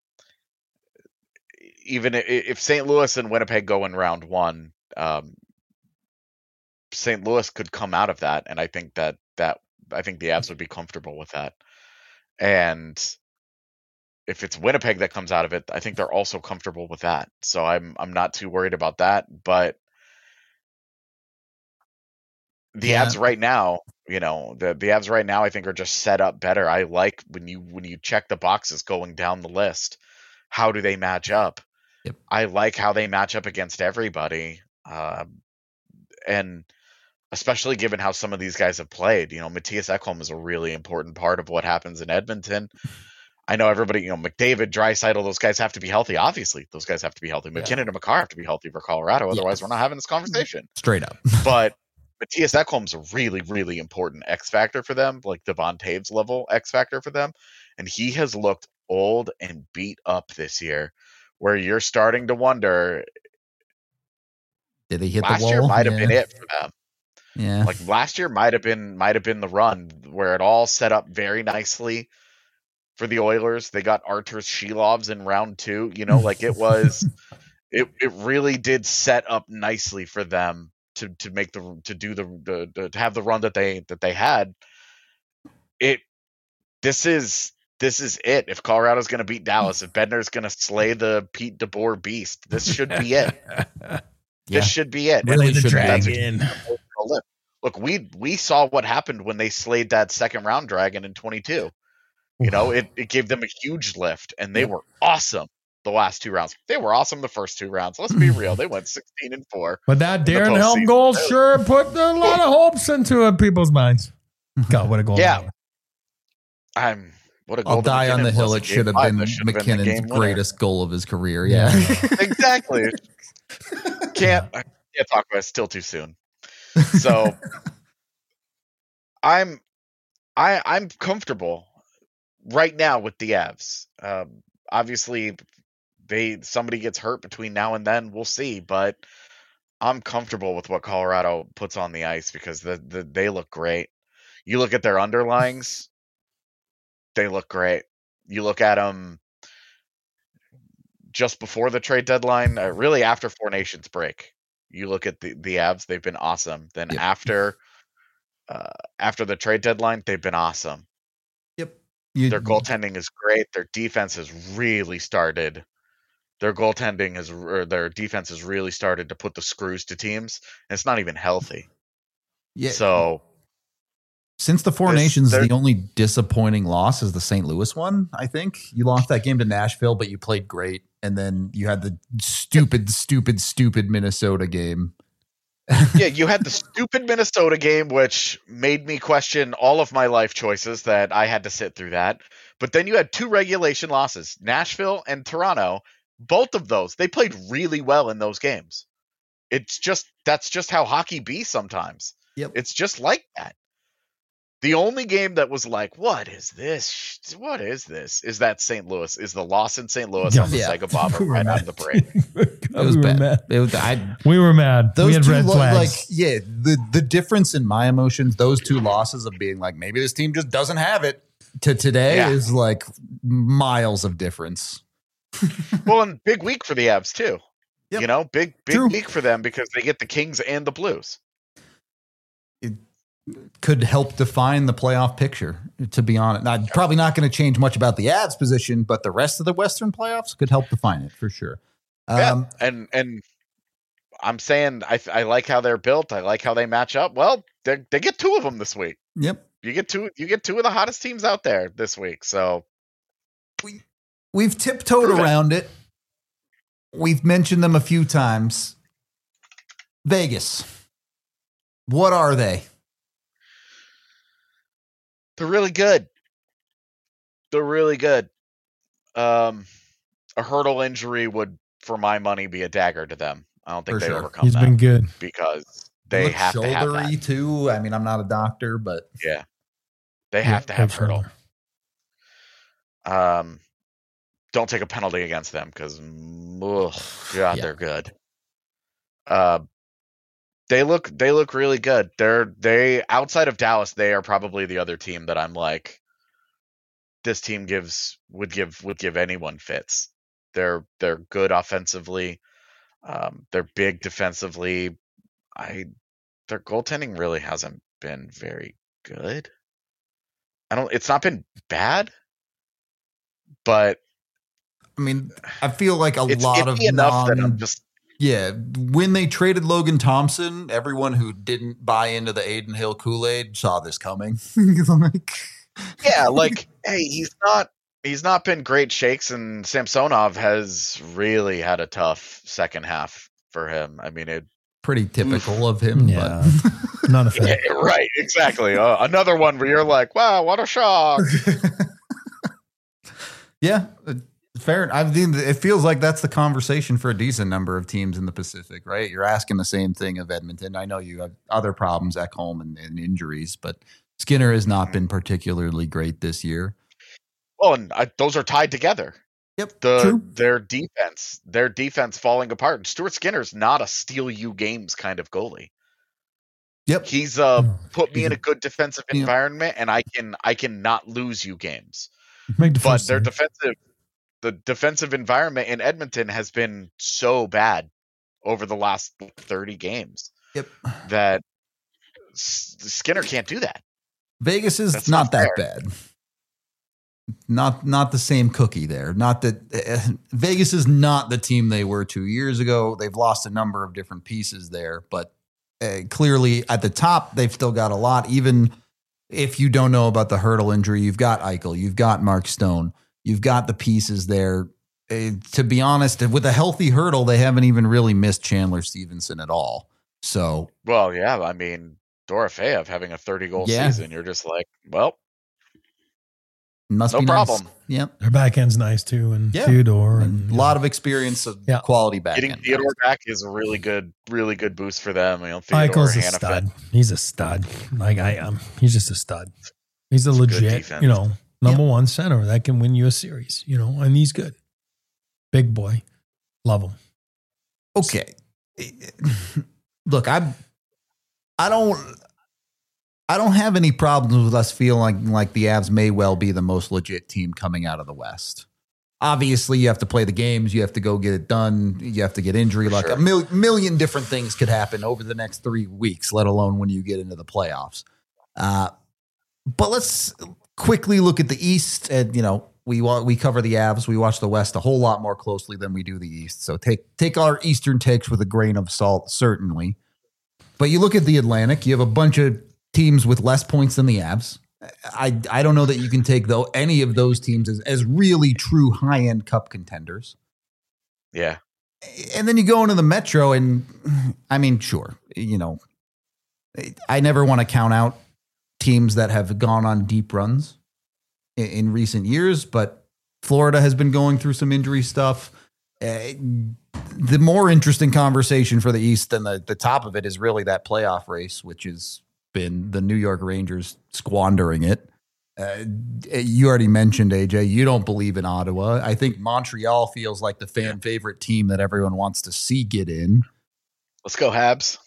even if Saint Louis and Winnipeg go in round one, um, Saint Louis could come out of that, and I think that that I think the Avs would be comfortable with that. And if it's Winnipeg that comes out of it, I think they're also comfortable with that. So I'm I'm not too worried about that. But the yeah. Avs right now, you know, the the Avs right now, I think are just set up better. I like when you when you check the boxes going down the list. How do they match up? Yep. I like how they match up against everybody, uh, and especially given how some of these guys have played. You know, Matthias Ekholm is a really important part of what happens in Edmonton. I know everybody, you know, McDavid, Draisaitl, those guys have to be healthy. Obviously, those guys have to be healthy. McKinnon yeah. and Makar have to be healthy for Colorado. Otherwise, yeah. we're not having this conversation. Straight up. But Matthias Ekholm's a really, really important X factor for them, like Devon Taves level X factor for them. And he has looked old and beat up this year, where you're starting to wonder, did he hit last the wall? year might have yeah. been it for them. Yeah. Like last year might have been might have been the run where it all set up very nicely for the Oilers. They got Artur Shilovs in round two. You know, like it was it it really did set up nicely for them to to make the to do the, the, the to have the run that they that they had. It this is this is it. If Colorado's going to beat Dallas, if Bednar's going to slay the Pete DeBoer beast, this should be it. yeah. This should be it. Really the dragon. Look, we we saw what happened when they slayed that second round dragon in twenty-two. You know, it, it gave them a huge lift, and they were awesome the last two rounds. They were awesome the first two rounds. Let's be real. They went sixteen and four. But that Darren Helm goal sure put a lot of hopes into uh, people's minds. God, what a goal. Yeah. I'm what a goal. I'll die on the hill. It should have been McKinnon's greatest goal of his career. Yeah. Exactly. Can't I can't talk about it. Still too soon. So I'm I I'm comfortable right now with the Avs. Um, obviously, they somebody gets hurt between now and then. We'll see, but I'm comfortable with what Colorado puts on the ice because the, the they look great. You look at their underlings, they look great. You look at them just before the trade deadline, uh, really after Four Nations break. You look at the the Avs; they've been awesome. Then yep. after uh, after the trade deadline, they've been awesome. Yep. You, Their goaltending is great. Their defense has really started. Their goaltending has, or their defense has really started to put the screws to teams, and it's not even healthy. yeah. So Since the Four This- Nations, there- the only disappointing loss is the Saint Louis one, I think. You lost that game to Nashville, but you played great. And then you had the stupid, stupid, stupid Minnesota game. yeah, you had the stupid Minnesota game, which made me question all of my life choices that I had to sit through that. But then you had two regulation losses, Nashville and Toronto. Both of those, they played really well in those games. It's just, that's just how hockey be sometimes. Yep. It's just like that. The only game that was like, what is this? What is this? Is that Saint Louis? Is the loss in Saint Louis on the Yeah. Sega Bobber We were right mad. out of the parade? It was we were bad. mad. It was, I, We were mad. those we had two, red lo- flags. like, yeah, the, the difference in my emotions, those two losses of being like, maybe this team just doesn't have it, to today Yeah. is like miles of difference. Well, and big week for the Avs too. Yep. You know, big big True. week for them because they get the Kings and the Blues. Could help define the playoff picture, to be honest. Now, probably not going to change much about the Avs position, but the rest of the Western playoffs could help define it for sure. Um, Yeah, and and I'm saying I I like how they're built. I like how they match up. Well, they they get two of them this week. Yep. You get two. You get two of the hottest teams out there this week. So We've tiptoed Prove it. around it. We've mentioned them a few times. Vegas. What are they? they're really good. They're really good. Um, a hurdle injury would, for my money, be a dagger to them. I don't think For they sure. overcome He's that been good. because they Look have to have that. shouldery too. I mean, I'm not a doctor, but Yeah, they have to Yeah, have big hurdle. shoulder. Um, don't take a penalty against them because, God, Yeah. they're good. Uh, they look they look really good. They're they outside of Dallas, they are probably the other team that I'm like, this team gives would give would give anyone fits. They're they're good offensively. Um, they're big defensively. I their goaltending really hasn't been very good. I don't. It's not been bad, but I mean, I feel like a it's lot of iffy enough that I'm non, just yeah. When they traded Logan Thompson, everyone who didn't buy into the Aiden Hill Kool-Aid saw this coming. Like, yeah, like hey, he's not he's not been great shakes, and Samsonov has really had a tough second half for him. I mean, it pretty typical of him. Yeah. But Not a fan. yeah, right, exactly. Uh, another one where you're like, wow, what a shock. yeah, uh, fair. I mean, it feels like that's the conversation for a decent number of teams in the Pacific, right? You're asking the same thing of Edmonton. I know you have other problems at home and, and injuries, but Skinner has not been particularly great this year. Well, and I, those are tied together. Yep, The true. their defense, their defense falling apart. Stuart Skinner's not a steal you games kind of goalie. Yep. He's uh No. put me He's in a- a good defensive Yeah. environment, and I can I can not lose you games. Make the But first their save. defensive, the defensive environment in Edmonton has been so bad over the last thirty games Yep. that S- Skinner can't do that. Vegas is That's not, not that bad. Not not the same cookie there. Not that uh, Vegas is not the team they were two years ago. They've lost a number of different pieces there, but uh, clearly at the top they've still got a lot. Even if you don't know about the hurdle injury, you've got Eichel, you've got Mark Stone, you've got the pieces there. Uh, to be honest, with a healthy hurdle, they haven't even really missed Chandler Stevenson at all. So Well, yeah, I mean Dorofeyev having a thirty goal Yeah. season, you're just like, well, must No be problem. Nice. Yep. Their back end's nice too, and Yeah. Theodore, And and a lot of experience of Yeah. quality back getting end. Theodore back is a really good, really good boost for them. You know, Theodore, Eichel's a Hannafin. stud. He's a stud. Like I am. He's just a stud. He's a It's good legit, defense. you know, number one center that can win you a series. You know, and he's good. Big boy, love him. Okay. Look, I I don't I don't have any problems with us feeling like the Avs may well be the most legit team coming out of the West. Obviously, you have to play the games. You have to go get it done. You have to get injury. For Like sure. a mil- million different things could happen over the next three weeks, let alone when you get into the playoffs. Uh, but let's quickly look at the East, and you know we wa- we cover the Avs. We watch the West a whole lot more closely than we do the East. So take take our Eastern takes with a grain of salt, certainly. But you look at the Atlantic, you have a bunch of teams with less points than the Avs. I I don't know that you can take though any of those teams as, as really true high end Cup contenders. Yeah. And then you go into the Metro, and I mean, sure, you know, I never want to count out teams that have gone on deep runs in, in recent years, but Florida has been going through some injury stuff. Uh, the more interesting conversation for the East than the, the top of it is really that playoff race, which has been the New York Rangers squandering it. Uh, you already mentioned, A J, you don't believe in Ottawa. I think Montreal feels like the fan favorite team that everyone wants to see get in. Let's go, Habs.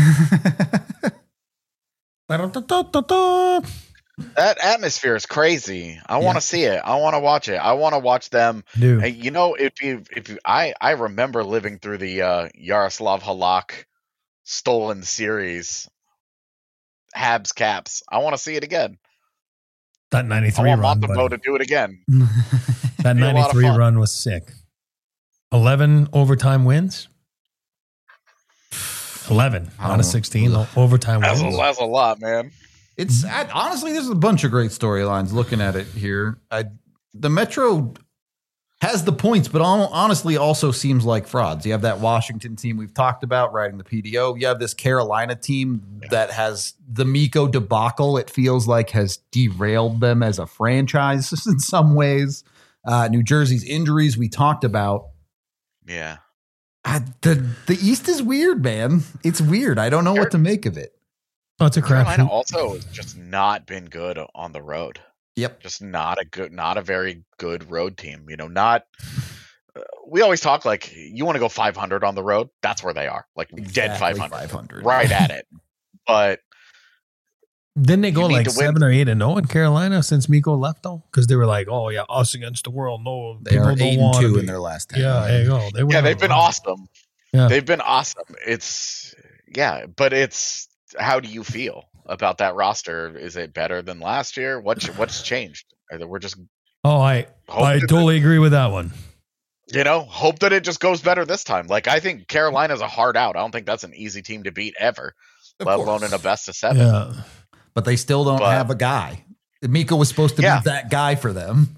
That atmosphere is crazy. I Yeah. want to see it. I want to watch it. I want to watch them. Dude. Hey, you know, if you, if you, I, I remember living through the uh, Yaroslav Halak stolen series, Habs Caps. I want to see it again. That I ninety-three want run, Montembeau to buddy. do it again. That be a lot of ninety-three fun. run was sick. eleven overtime wins. eleven I out don't of know. sixteen Ugh. overtime That's a, wins. that's a lot, man. It's I, honestly, there's a bunch of great storylines looking at it here. I, the Metro has the points, but al- honestly also seems like frauds. You have that Washington team we've talked about riding the P D O. You have this Carolina team that has the Miko debacle. It feels like has derailed them as a franchise in some ways. Uh, New Jersey's injuries we talked about. Yeah. I, the the East is weird, man. It's weird. I don't know what to make of it. Oh, it's a Carolina crapshoot. also has just not been good on the road. Yep. Just not a good, not a very good road team. You know, not. Uh, we always talk like you want to go five hundred on the road. That's where they are, like dead Exactly five hundred, five hundred. right at it. But Didn't they You go need like to win. seven or eight and zero in Carolina since Miko left though? Because they were like, "Oh yeah, us against the world." No, They people are don't eight and want two to in be. their last ten. Yeah, there you go. They yeah, went they've on been a run. awesome. Yeah. They've been awesome. It's yeah, but it's how do you feel about that roster? Is it better than last year? What's what's changed? Either we're just Oh, I Hope I that- totally agree with that one. you know hope that it just goes better this time. Like I think Carolina's a hard out. I don't think that's an easy team to beat ever, Of let course. alone in a best of seven. Yeah. But they still don't But- have a guy. Miko was supposed to Yeah. be that guy for them.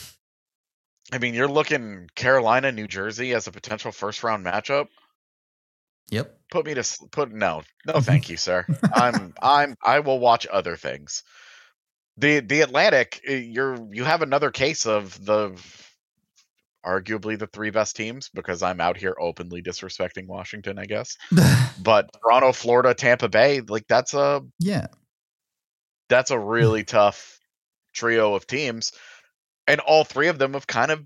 I mean, you're looking Carolina, New Jersey as a potential first round matchup. Yep. Put me to s- put no, no, thank you, sir. I'm, I'm, I will watch other things. The the Atlantic, eh, you're you have another case of the arguably the three best teams because I'm out here openly disrespecting Washington, I guess. But Toronto, Florida, Tampa Bay, like that's a yeah. that's a really tough trio of teams, and all three of them have kind of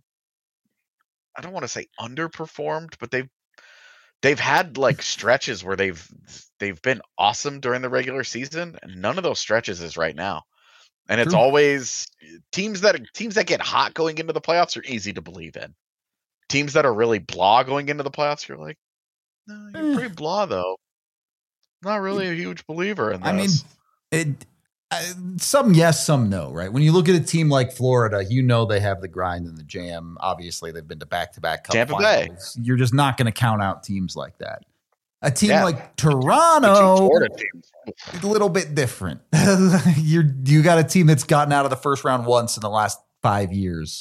I don't want to say underperformed, but they've they've had like stretches where they've they've been awesome during the regular season, and none of those stretches is right now. And it's True. always teams that teams that get hot going into the playoffs are easy to believe in. Teams that are really blah going into the playoffs, you're like, no, you're Eh. pretty blah though. Not really a huge believer in this. I mean, it. Uh, some yes, some no, right? When you look at a team like Florida, you know they have the grind and the jam. Obviously, they've been to back-to-back cup Tampa Bay. finals. You're just not going to count out teams like that. A team Yeah. like The two Toronto, Florida teams. a little bit different. You're you got a team that's gotten out of the first round once in the last five years.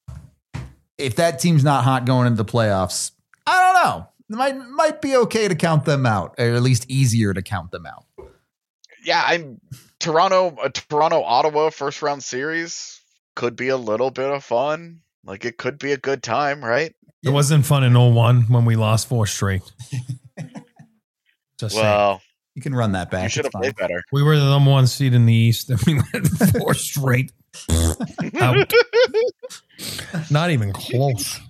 If that team's not hot going into the playoffs, I don't know. It might might be okay to count them out, or at least easier to count them out. Yeah, I'm Toronto. A Toronto Ottawa first round series could be a little bit of fun. Like it could be a good time, right? It wasn't fun in oh one when we lost four straight. Just saying. Well, You can run that back. you should It's have fine. played better. We were the number one seed in the East, and we went four straight. Out. Not even close.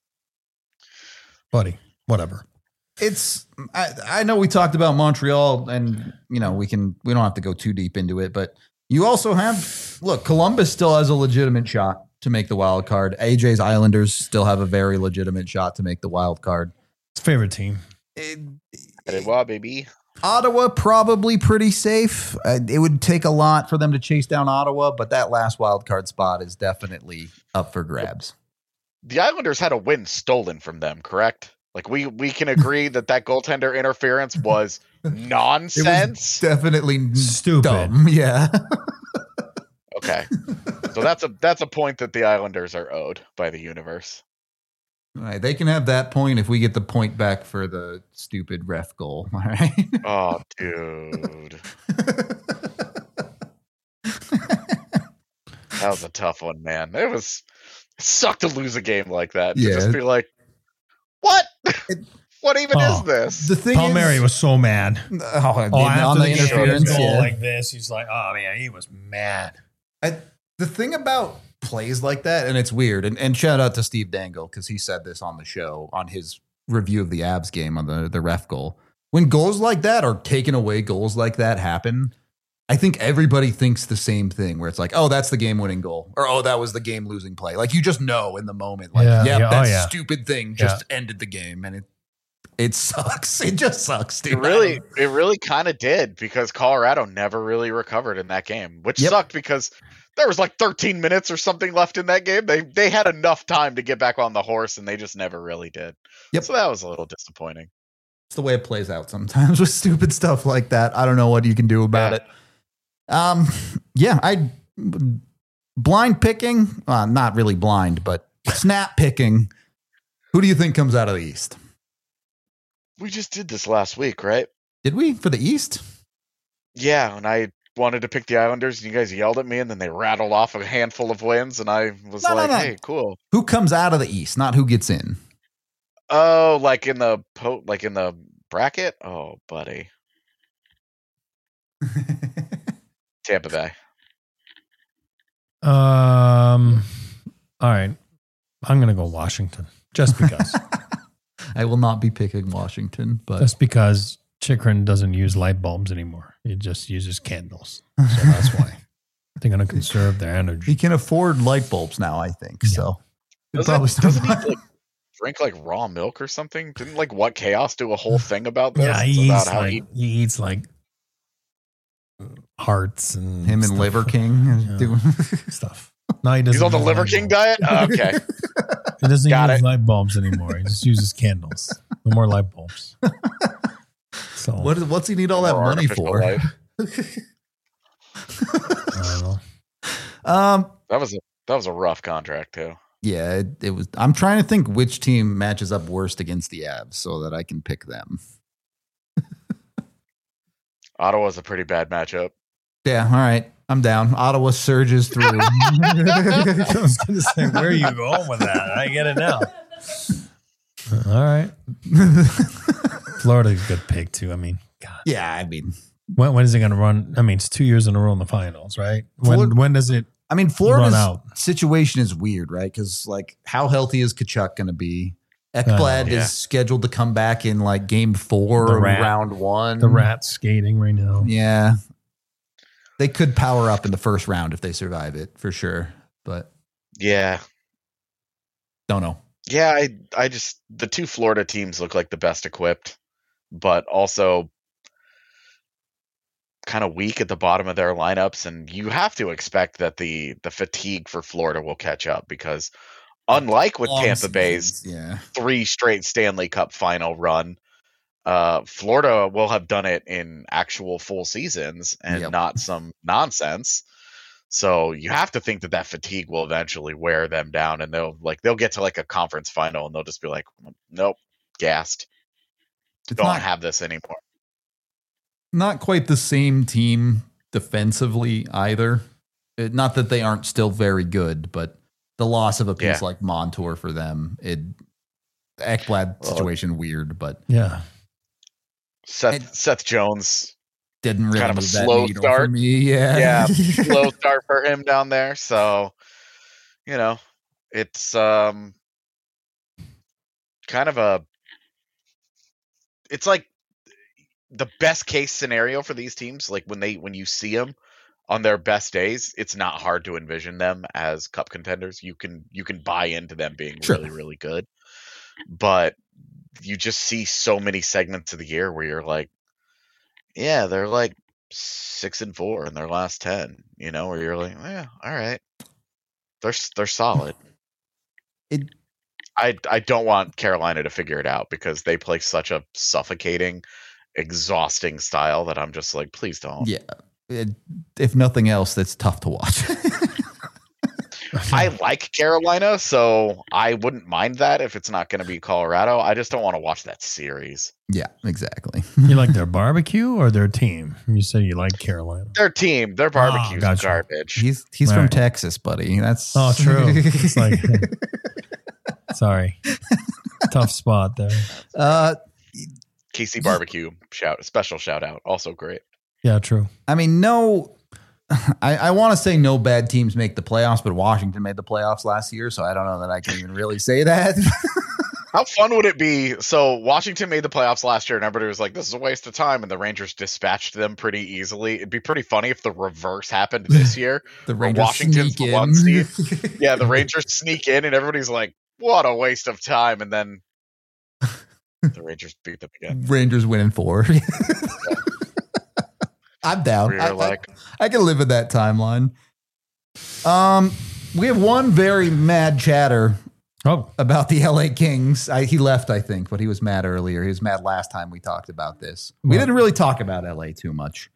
Buddy, whatever. It's I, I know we talked about Montreal, and you know we can we don't have to go too deep into it, but you also have look Columbus still has a legitimate shot to make the wild card. A J's Islanders still have a very legitimate shot to make the wild card. It's favorite team. It, Hey, wow, baby. Ottawa probably pretty safe. Uh, it would take a lot for them to chase down Ottawa, but that last wild card spot is definitely up for grabs. The Islanders had a win stolen from them, correct? Like we we can agree that that goaltender interference was nonsense. It was definitely Stupid. dumb. Yeah. Okay, so that's a that's a point that the Islanders are owed by the universe. All right, they can have that point if we get the point back for the stupid ref goal. All right. Oh, dude, that was a tough one, man. It was it sucked to lose a game like that. To Yeah. just be like, what? What even Oh. is this? The thing Palmieri is, was so mad. oh, Oh, on after the the game, interference. goal Yeah. like this, he's like, oh man, he was mad. I, the thing about plays like that, and it's weird, and, and shout out to Steve Dangle because he said this on the show on his review of the Abs game on the, the ref goal. When goals like that or taken away goals like that happen, I think everybody thinks the same thing where it's like, oh, that's the game winning goal, or oh, that was the game losing play. Like you just know in the moment, like, Yeah, yep, yeah, oh, that yeah. stupid thing just ended the game, and it it sucks. It just sucks, dude. It really, it really kind of did because Colorado never really recovered in that game, which Yep. sucked because there was like thirteen minutes or something left in that game. They they had enough time to get back on the horse, and they just never really did. Yep. So that was a little disappointing. It's the way it plays out sometimes with stupid stuff like that. I don't know what you can do about Yeah. it. Um, yeah, I blind picking, uh, not really blind, but snap picking. Who do you think comes out of the East? We just did this last week, right? Did we for the East? Yeah, and I wanted to pick the Islanders, and you guys yelled at me, and then they rattled off a handful of wins, and I was No, no, like, no. "Hey, cool." Who comes out of the East, not who gets in? Oh, like in the po- like in the bracket? Oh, buddy, Tampa Bay. Um, all right, I'm gonna go Washington just because, I will not be picking Washington, but just because Chikrin doesn't use light bulbs anymore. He just uses candles, so that's why they're gonna conserve their he energy. can afford light bulbs now, I think. Yeah. So he'll Doesn't, probably still doesn't he like drink like raw milk or something? Didn't like What Chaos do a whole thing about this? Yeah, It's he about eats how like he he eats like hearts and him and stuff. Liver King Yeah. doing stuff. No, he doesn't. he's on the use Liver light King bulbs. diet. Oh, okay, He doesn't Got use it. light bulbs anymore. He just uses candles. No more light bulbs. So what is, what's he need all that More money artificial for? light. I don't know. Um, That was a that was a rough contract too. yeah, it, it was. I'm trying to think which team matches up worst against the Avs so that I can pick them. Ottawa's a pretty bad matchup. Yeah, all right, I'm down. Ottawa surges through. I was going to say, where are you going with that? I get it now. All right. Florida's a good pick, too. I mean, God. yeah, I mean, When, when is it going to run? I mean, it's two years in a row in the finals, right? When, Flor- when does it? I mean, Florida's Run out. situation is weird, right? Because like, how healthy is Kachuk going to be? Ekblad yeah. is scheduled to come back in like game four The of rat. round one. The Rats skating right now. Yeah, they could power up in the first round if they survive it for sure, but Yeah, don't know. yeah. I I just the two Florida teams look like the best equipped, but also kind of weak at the bottom of their lineups, and you have to expect that the the fatigue for Florida will catch up because unlike with Long Tampa Bay's seasons, yeah. three straight Stanley Cup final run, uh, Florida will have done it in actual full seasons and Yep. not some nonsense. So you have to think that that fatigue will eventually wear them down, and they'll like they'll get to like a conference final, and they'll just be like, "Nope, gassed. It's Don't not, have this anymore." not quite the same team defensively either. It- not that they aren't still very good, but the loss of a piece Yeah. like Montour for them, it Ekblad Well, situation weird, but Yeah. Seth And- Seth Jones, didn't really kind of a move that slow needle start. for me. Yeah, yeah, slow start for him down there. So, you know, it's um kind of a it's like the best case scenario for these teams. Like when they when you see them on their best days, it's not hard to envision them as cup contenders. You can you can buy into them being Sure. really really good, but you just see so many segments of the year where you're like, yeah, they're like six and four in their last ten. You know, where you're like, yeah, all right, they're they're solid. It. I I don't want Carolina to figure it out because they play such a suffocating, exhausting style that I'm just like, please don't. Yeah. It, if nothing else, that's tough to watch. I like Carolina, so I wouldn't mind that if it's not going to be Colorado. I just don't want to watch that series. Yeah, exactly. You like their barbecue or their team? You said you like Carolina. Their team, their barbecue's gotcha. garbage. He's he's Right. from Texas, buddy. That's Oh, true. It's like, sorry, tough spot there. uh, K C Barbecue, shout special shout out, also great. Yeah, true. I mean, no. I, I want to say no bad teams make the playoffs, but Washington made the playoffs last year, so I don't know that I can even really say that. How fun would it be? So Washington made the playoffs last year, and everybody was like, "This is a waste of time," and the Rangers dispatched them pretty easily. It'd be pretty funny if the reverse happened this year. The where Rangers Washington's sneak the one in. seed. Yeah, the Rangers sneak in, and everybody's like, "What a waste of time!" And then the Rangers beat them again. Rangers winning four. I'm down. Where I, you're like, I, I can live with that timeline. Um, we have one very mad chatter Oh, about the L A Kings. I, he left, I think, but he was mad earlier. He was mad last time we talked about this. We Well- didn't really talk about L A too much.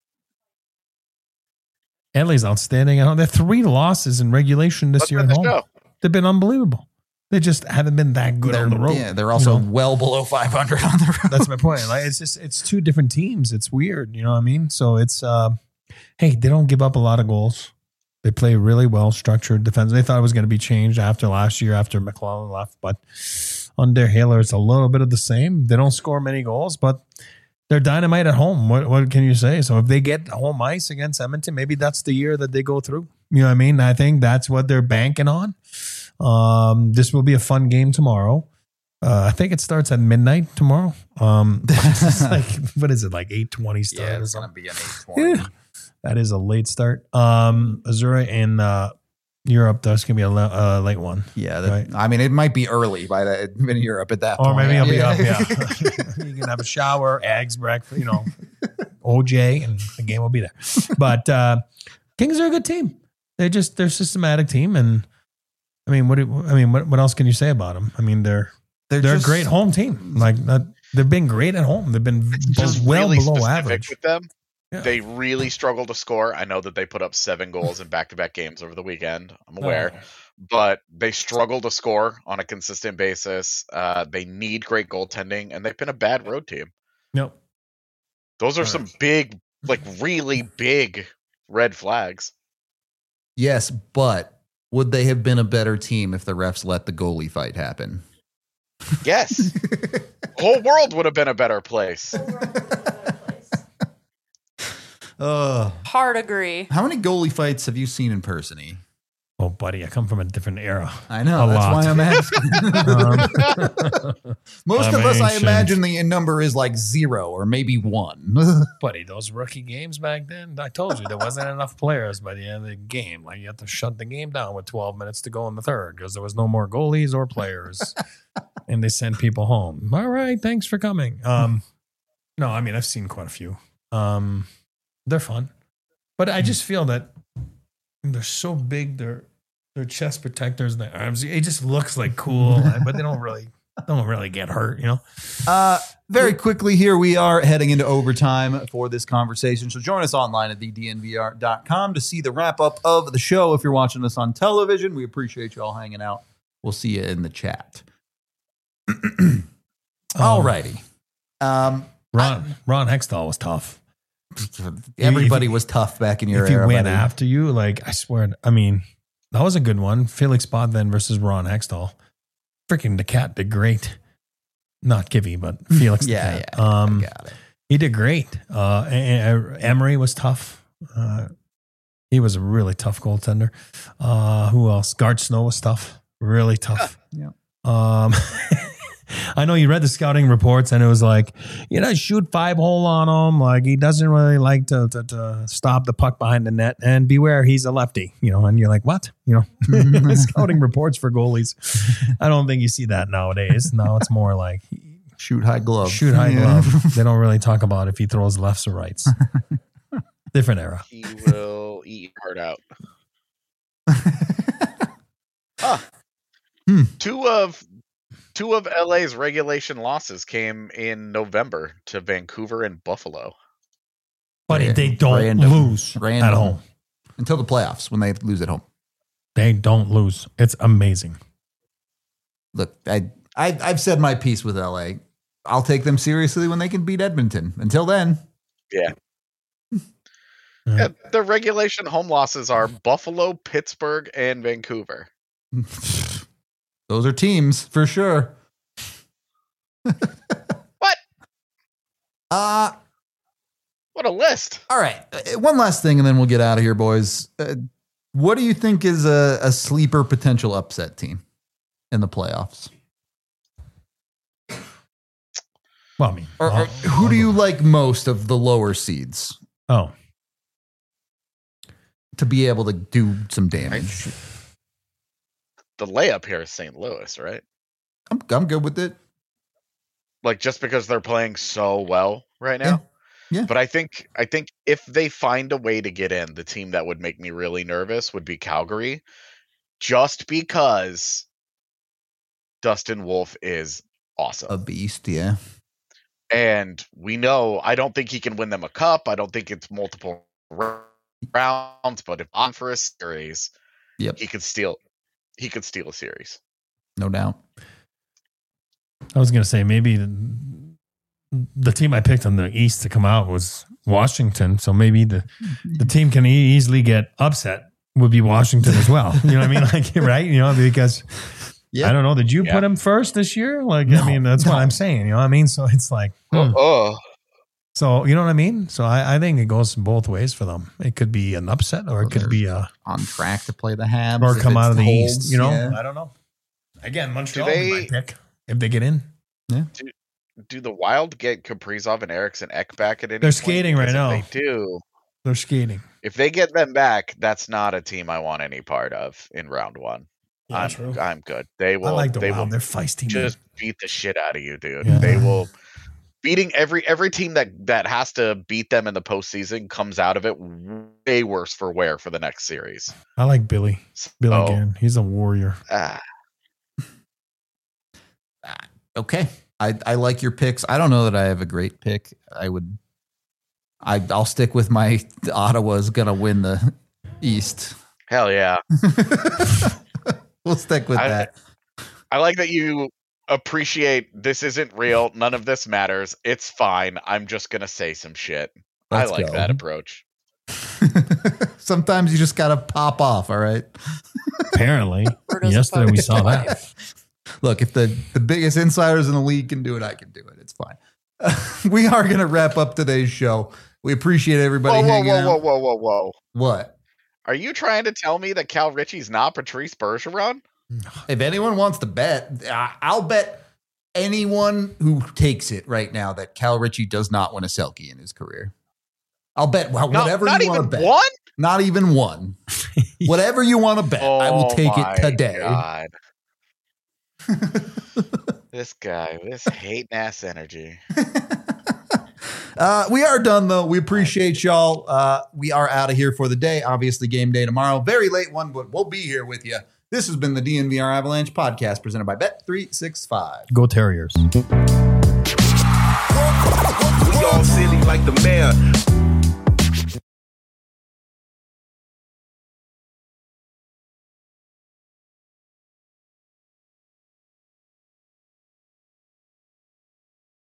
L A's outstanding. I know they're three losses in regulation this let's year end at the home. show. They've been unbelievable. They just haven't been that good They're, on the road. yeah, they're also you know? well below five hundred on the road. That's my point. Like it's just it's two different teams. It's weird, you know what I mean? So it's uh, hey, they don't give up a lot of goals. They play really well structured defense. They thought it was going to be changed after last year after McClellan left, but under Haler, it's a little bit of the same. They don't score many goals, but they're dynamite at home. What what can you say? So if they get home ice against Edmonton, maybe that's the year that they go through. You know what I mean? I think that's what they're banking on. Um, this will be a fun game tomorrow. Uh, I think it starts at midnight tomorrow. Um, it's like what is it like eight twenty start? Yeah, or it's something? going to be an eight twenty. Yeah. That is a late start. Um, Missouri and uh, Europe, that's gonna be a le- uh, late one. Yeah, that, Right. I mean, it might be early by that in Europe at that Or point. maybe I'll be Yeah. up. Yeah, you can have a shower, eggs, breakfast, you know, O J, and the game will be there. But uh, Kings are a good team. They're just they're a systematic team, and I mean, what do, I mean, what, what else can you say about them? I mean, they're They're, they're just, a great home team. Like that, they've been great at home. They've been It's just well really below specific average. with them. Yeah. They really struggle to score. I know that they put up seven goals in back-to-back games over the weekend. I'm aware. Oh. But they struggle to score on a consistent basis. Uh, they need great goaltending, and they've been a bad road team. Nope. Those are Right. some big, like really big red flags. Yes, but would they have been a better team if the refs let the goalie fight happen? Yes. Whole world would have been a better place. Uh, Hard agree. how many goalie fights have you seen in person? E? Oh, buddy, I come from a different era. I know. A That's lot. why I'm asking. Um, Most I'm of us, I ancient. imagine the number is like zero or maybe one. buddy, those rookie games back then, I told you there wasn't enough players by the end of the game. Like you had to shut the game down with twelve minutes to go in the third because there was no more goalies or players, and they sent people home. All right, thanks for coming. Um, no, I mean I've seen quite a few. Um, they're fun, but I just feel that they're so big. They're they're chest protectors and their arms. It just looks like cool, but they don't really don't really get hurt. You know. Uh, very quickly here, we are heading into overtime for this conversation. So join us online at the d n v r dot com to see the wrap up of the show. If you're watching us on television, we appreciate you all hanging out. We'll see you in the chat. All righty. Um, Ron Ron Hextall was tough. everybody was tough back in your If he era. went buddy. after you, like I swear, I mean, that was a good one. Felix Potvin versus Ron Hextall. Freaking the cat did great. Not Gibby, but Felix. Yeah, the cat. yeah, Um, got it. he did great. Uh, and, and Emery was tough. Uh, he was a really tough goaltender. Uh, who else? Gart Snow was tough. Really tough. Yeah. Um, I know you read the scouting reports and it was like, you know, shoot five hole on him. Like he doesn't really like to, to, to stop the puck behind the net, and beware, he's a lefty, you know, and you're like, what? You know, scouting reports for goalies. I don't think you see that nowadays. Now it's more like Shoot high glove. Shoot high Yeah. glove. They don't really talk about if he throws lefts or rights. Different era. He will eat your heart out. Huh. Hmm. Two of two of L A's regulation losses came in November to Vancouver and Buffalo. But Ra- they don't random. lose Random. at home. Until the playoffs when they lose at home. They don't lose. It's amazing. Look, I, I, I've said my piece with L A. I'll take them seriously when they can beat Edmonton. Until then. Yeah. Yeah, the regulation home losses are Buffalo, Pittsburgh, and Vancouver. Those are teams for sure. What? Uh, What a list. all right. Uh, One last thing, and then we'll get out of here, boys. Uh, what do you think is a, a sleeper potential upset team in the playoffs? Well, I mean, Or, or I'll- who I'll do go- you like most of the lower seeds Oh, to be able to do some damage? The layup here is Saint Louis, right? I'm, I'm good with it. Like just because they're playing so well right Yeah. now. Yeah. But I think I think if they find a way to get in, the team that would make me really nervous would be Calgary, just because Dustin Wolf is awesome. A beast, yeah. And we know I don't think he can win them a cup. I don't think it's multiple rounds, but if on for a series, Yep. he could steal he could steal a series. No doubt. I was going to say maybe the, the team I picked on the East to come out was Washington. So maybe the, the team can e- easily get upset would be Washington as well. You know what I mean? Like, right? You know, because Yeah. I don't know. Did you Yeah. put him first this year? Like, No, I mean, that's no. what I'm saying. You know what I mean? So it's like, hmm. Oh, So, you know what I mean? So I, I think it goes both ways for them. It could be an upset or it Well, could they're be a, On track to play the Habs. or if come it out of the holds, East, you know? yeah. I don't know. Again, Montreal Do would be they- my pick if they get in. do the Wild get Kaprizov and Eriksson Ek back at any They're point? skating right Because now. If they do, They're skating. if they get them back, that's not a team I want any part of in round one. Yeah, I'm, true. I'm good. They will. I like the they Wild. will They're feisty. just man. beat the shit out of you, dude. Yeah. They will. Beating every every team that that has to beat them in the postseason comes out of it way worse for wear for the next series. I like Billy. Billy So, Gann. He's a warrior. ah, Okay. I, I like your picks. I don't know that I have a great pick. I would I I'll stick with my Ottawa's gonna win the East. hell yeah! We'll stick with I- that. I like that you appreciate this isn't real. None of this matters. It's fine. I'm just gonna say some shit. Let's I like go. that approach. Sometimes you just gotta pop off, all right? Apparently. Or does it Yesterday we focus saw on that. life? Look, if the, the biggest insiders in the league can do it, I can do it. It's fine. We are gonna wrap up today's show. We appreciate everybody Whoa, whoa, hanging whoa, out. whoa, whoa, whoa, whoa! What? Are you trying to tell me that Cal Ritchie's not Patrice Bergeron? If anyone wants to bet, I- I'll bet anyone who takes it right now that Cal Ritchie does not win a Selkie in his career. I'll bet well, No, whatever not you want even to bet. one. Not even one. Whatever you want to bet, I will Oh take my it today. God. This guy, this hating ass energy. Uh, we are done, though. We appreciate y'all. Uh, we are out of here for the day. Obviously, game day tomorrow. Very late one, but we'll be here with you. This has been the D N V R Avalanche podcast presented by Bet three sixty-five. Go Terriers. We all silly like the mayor.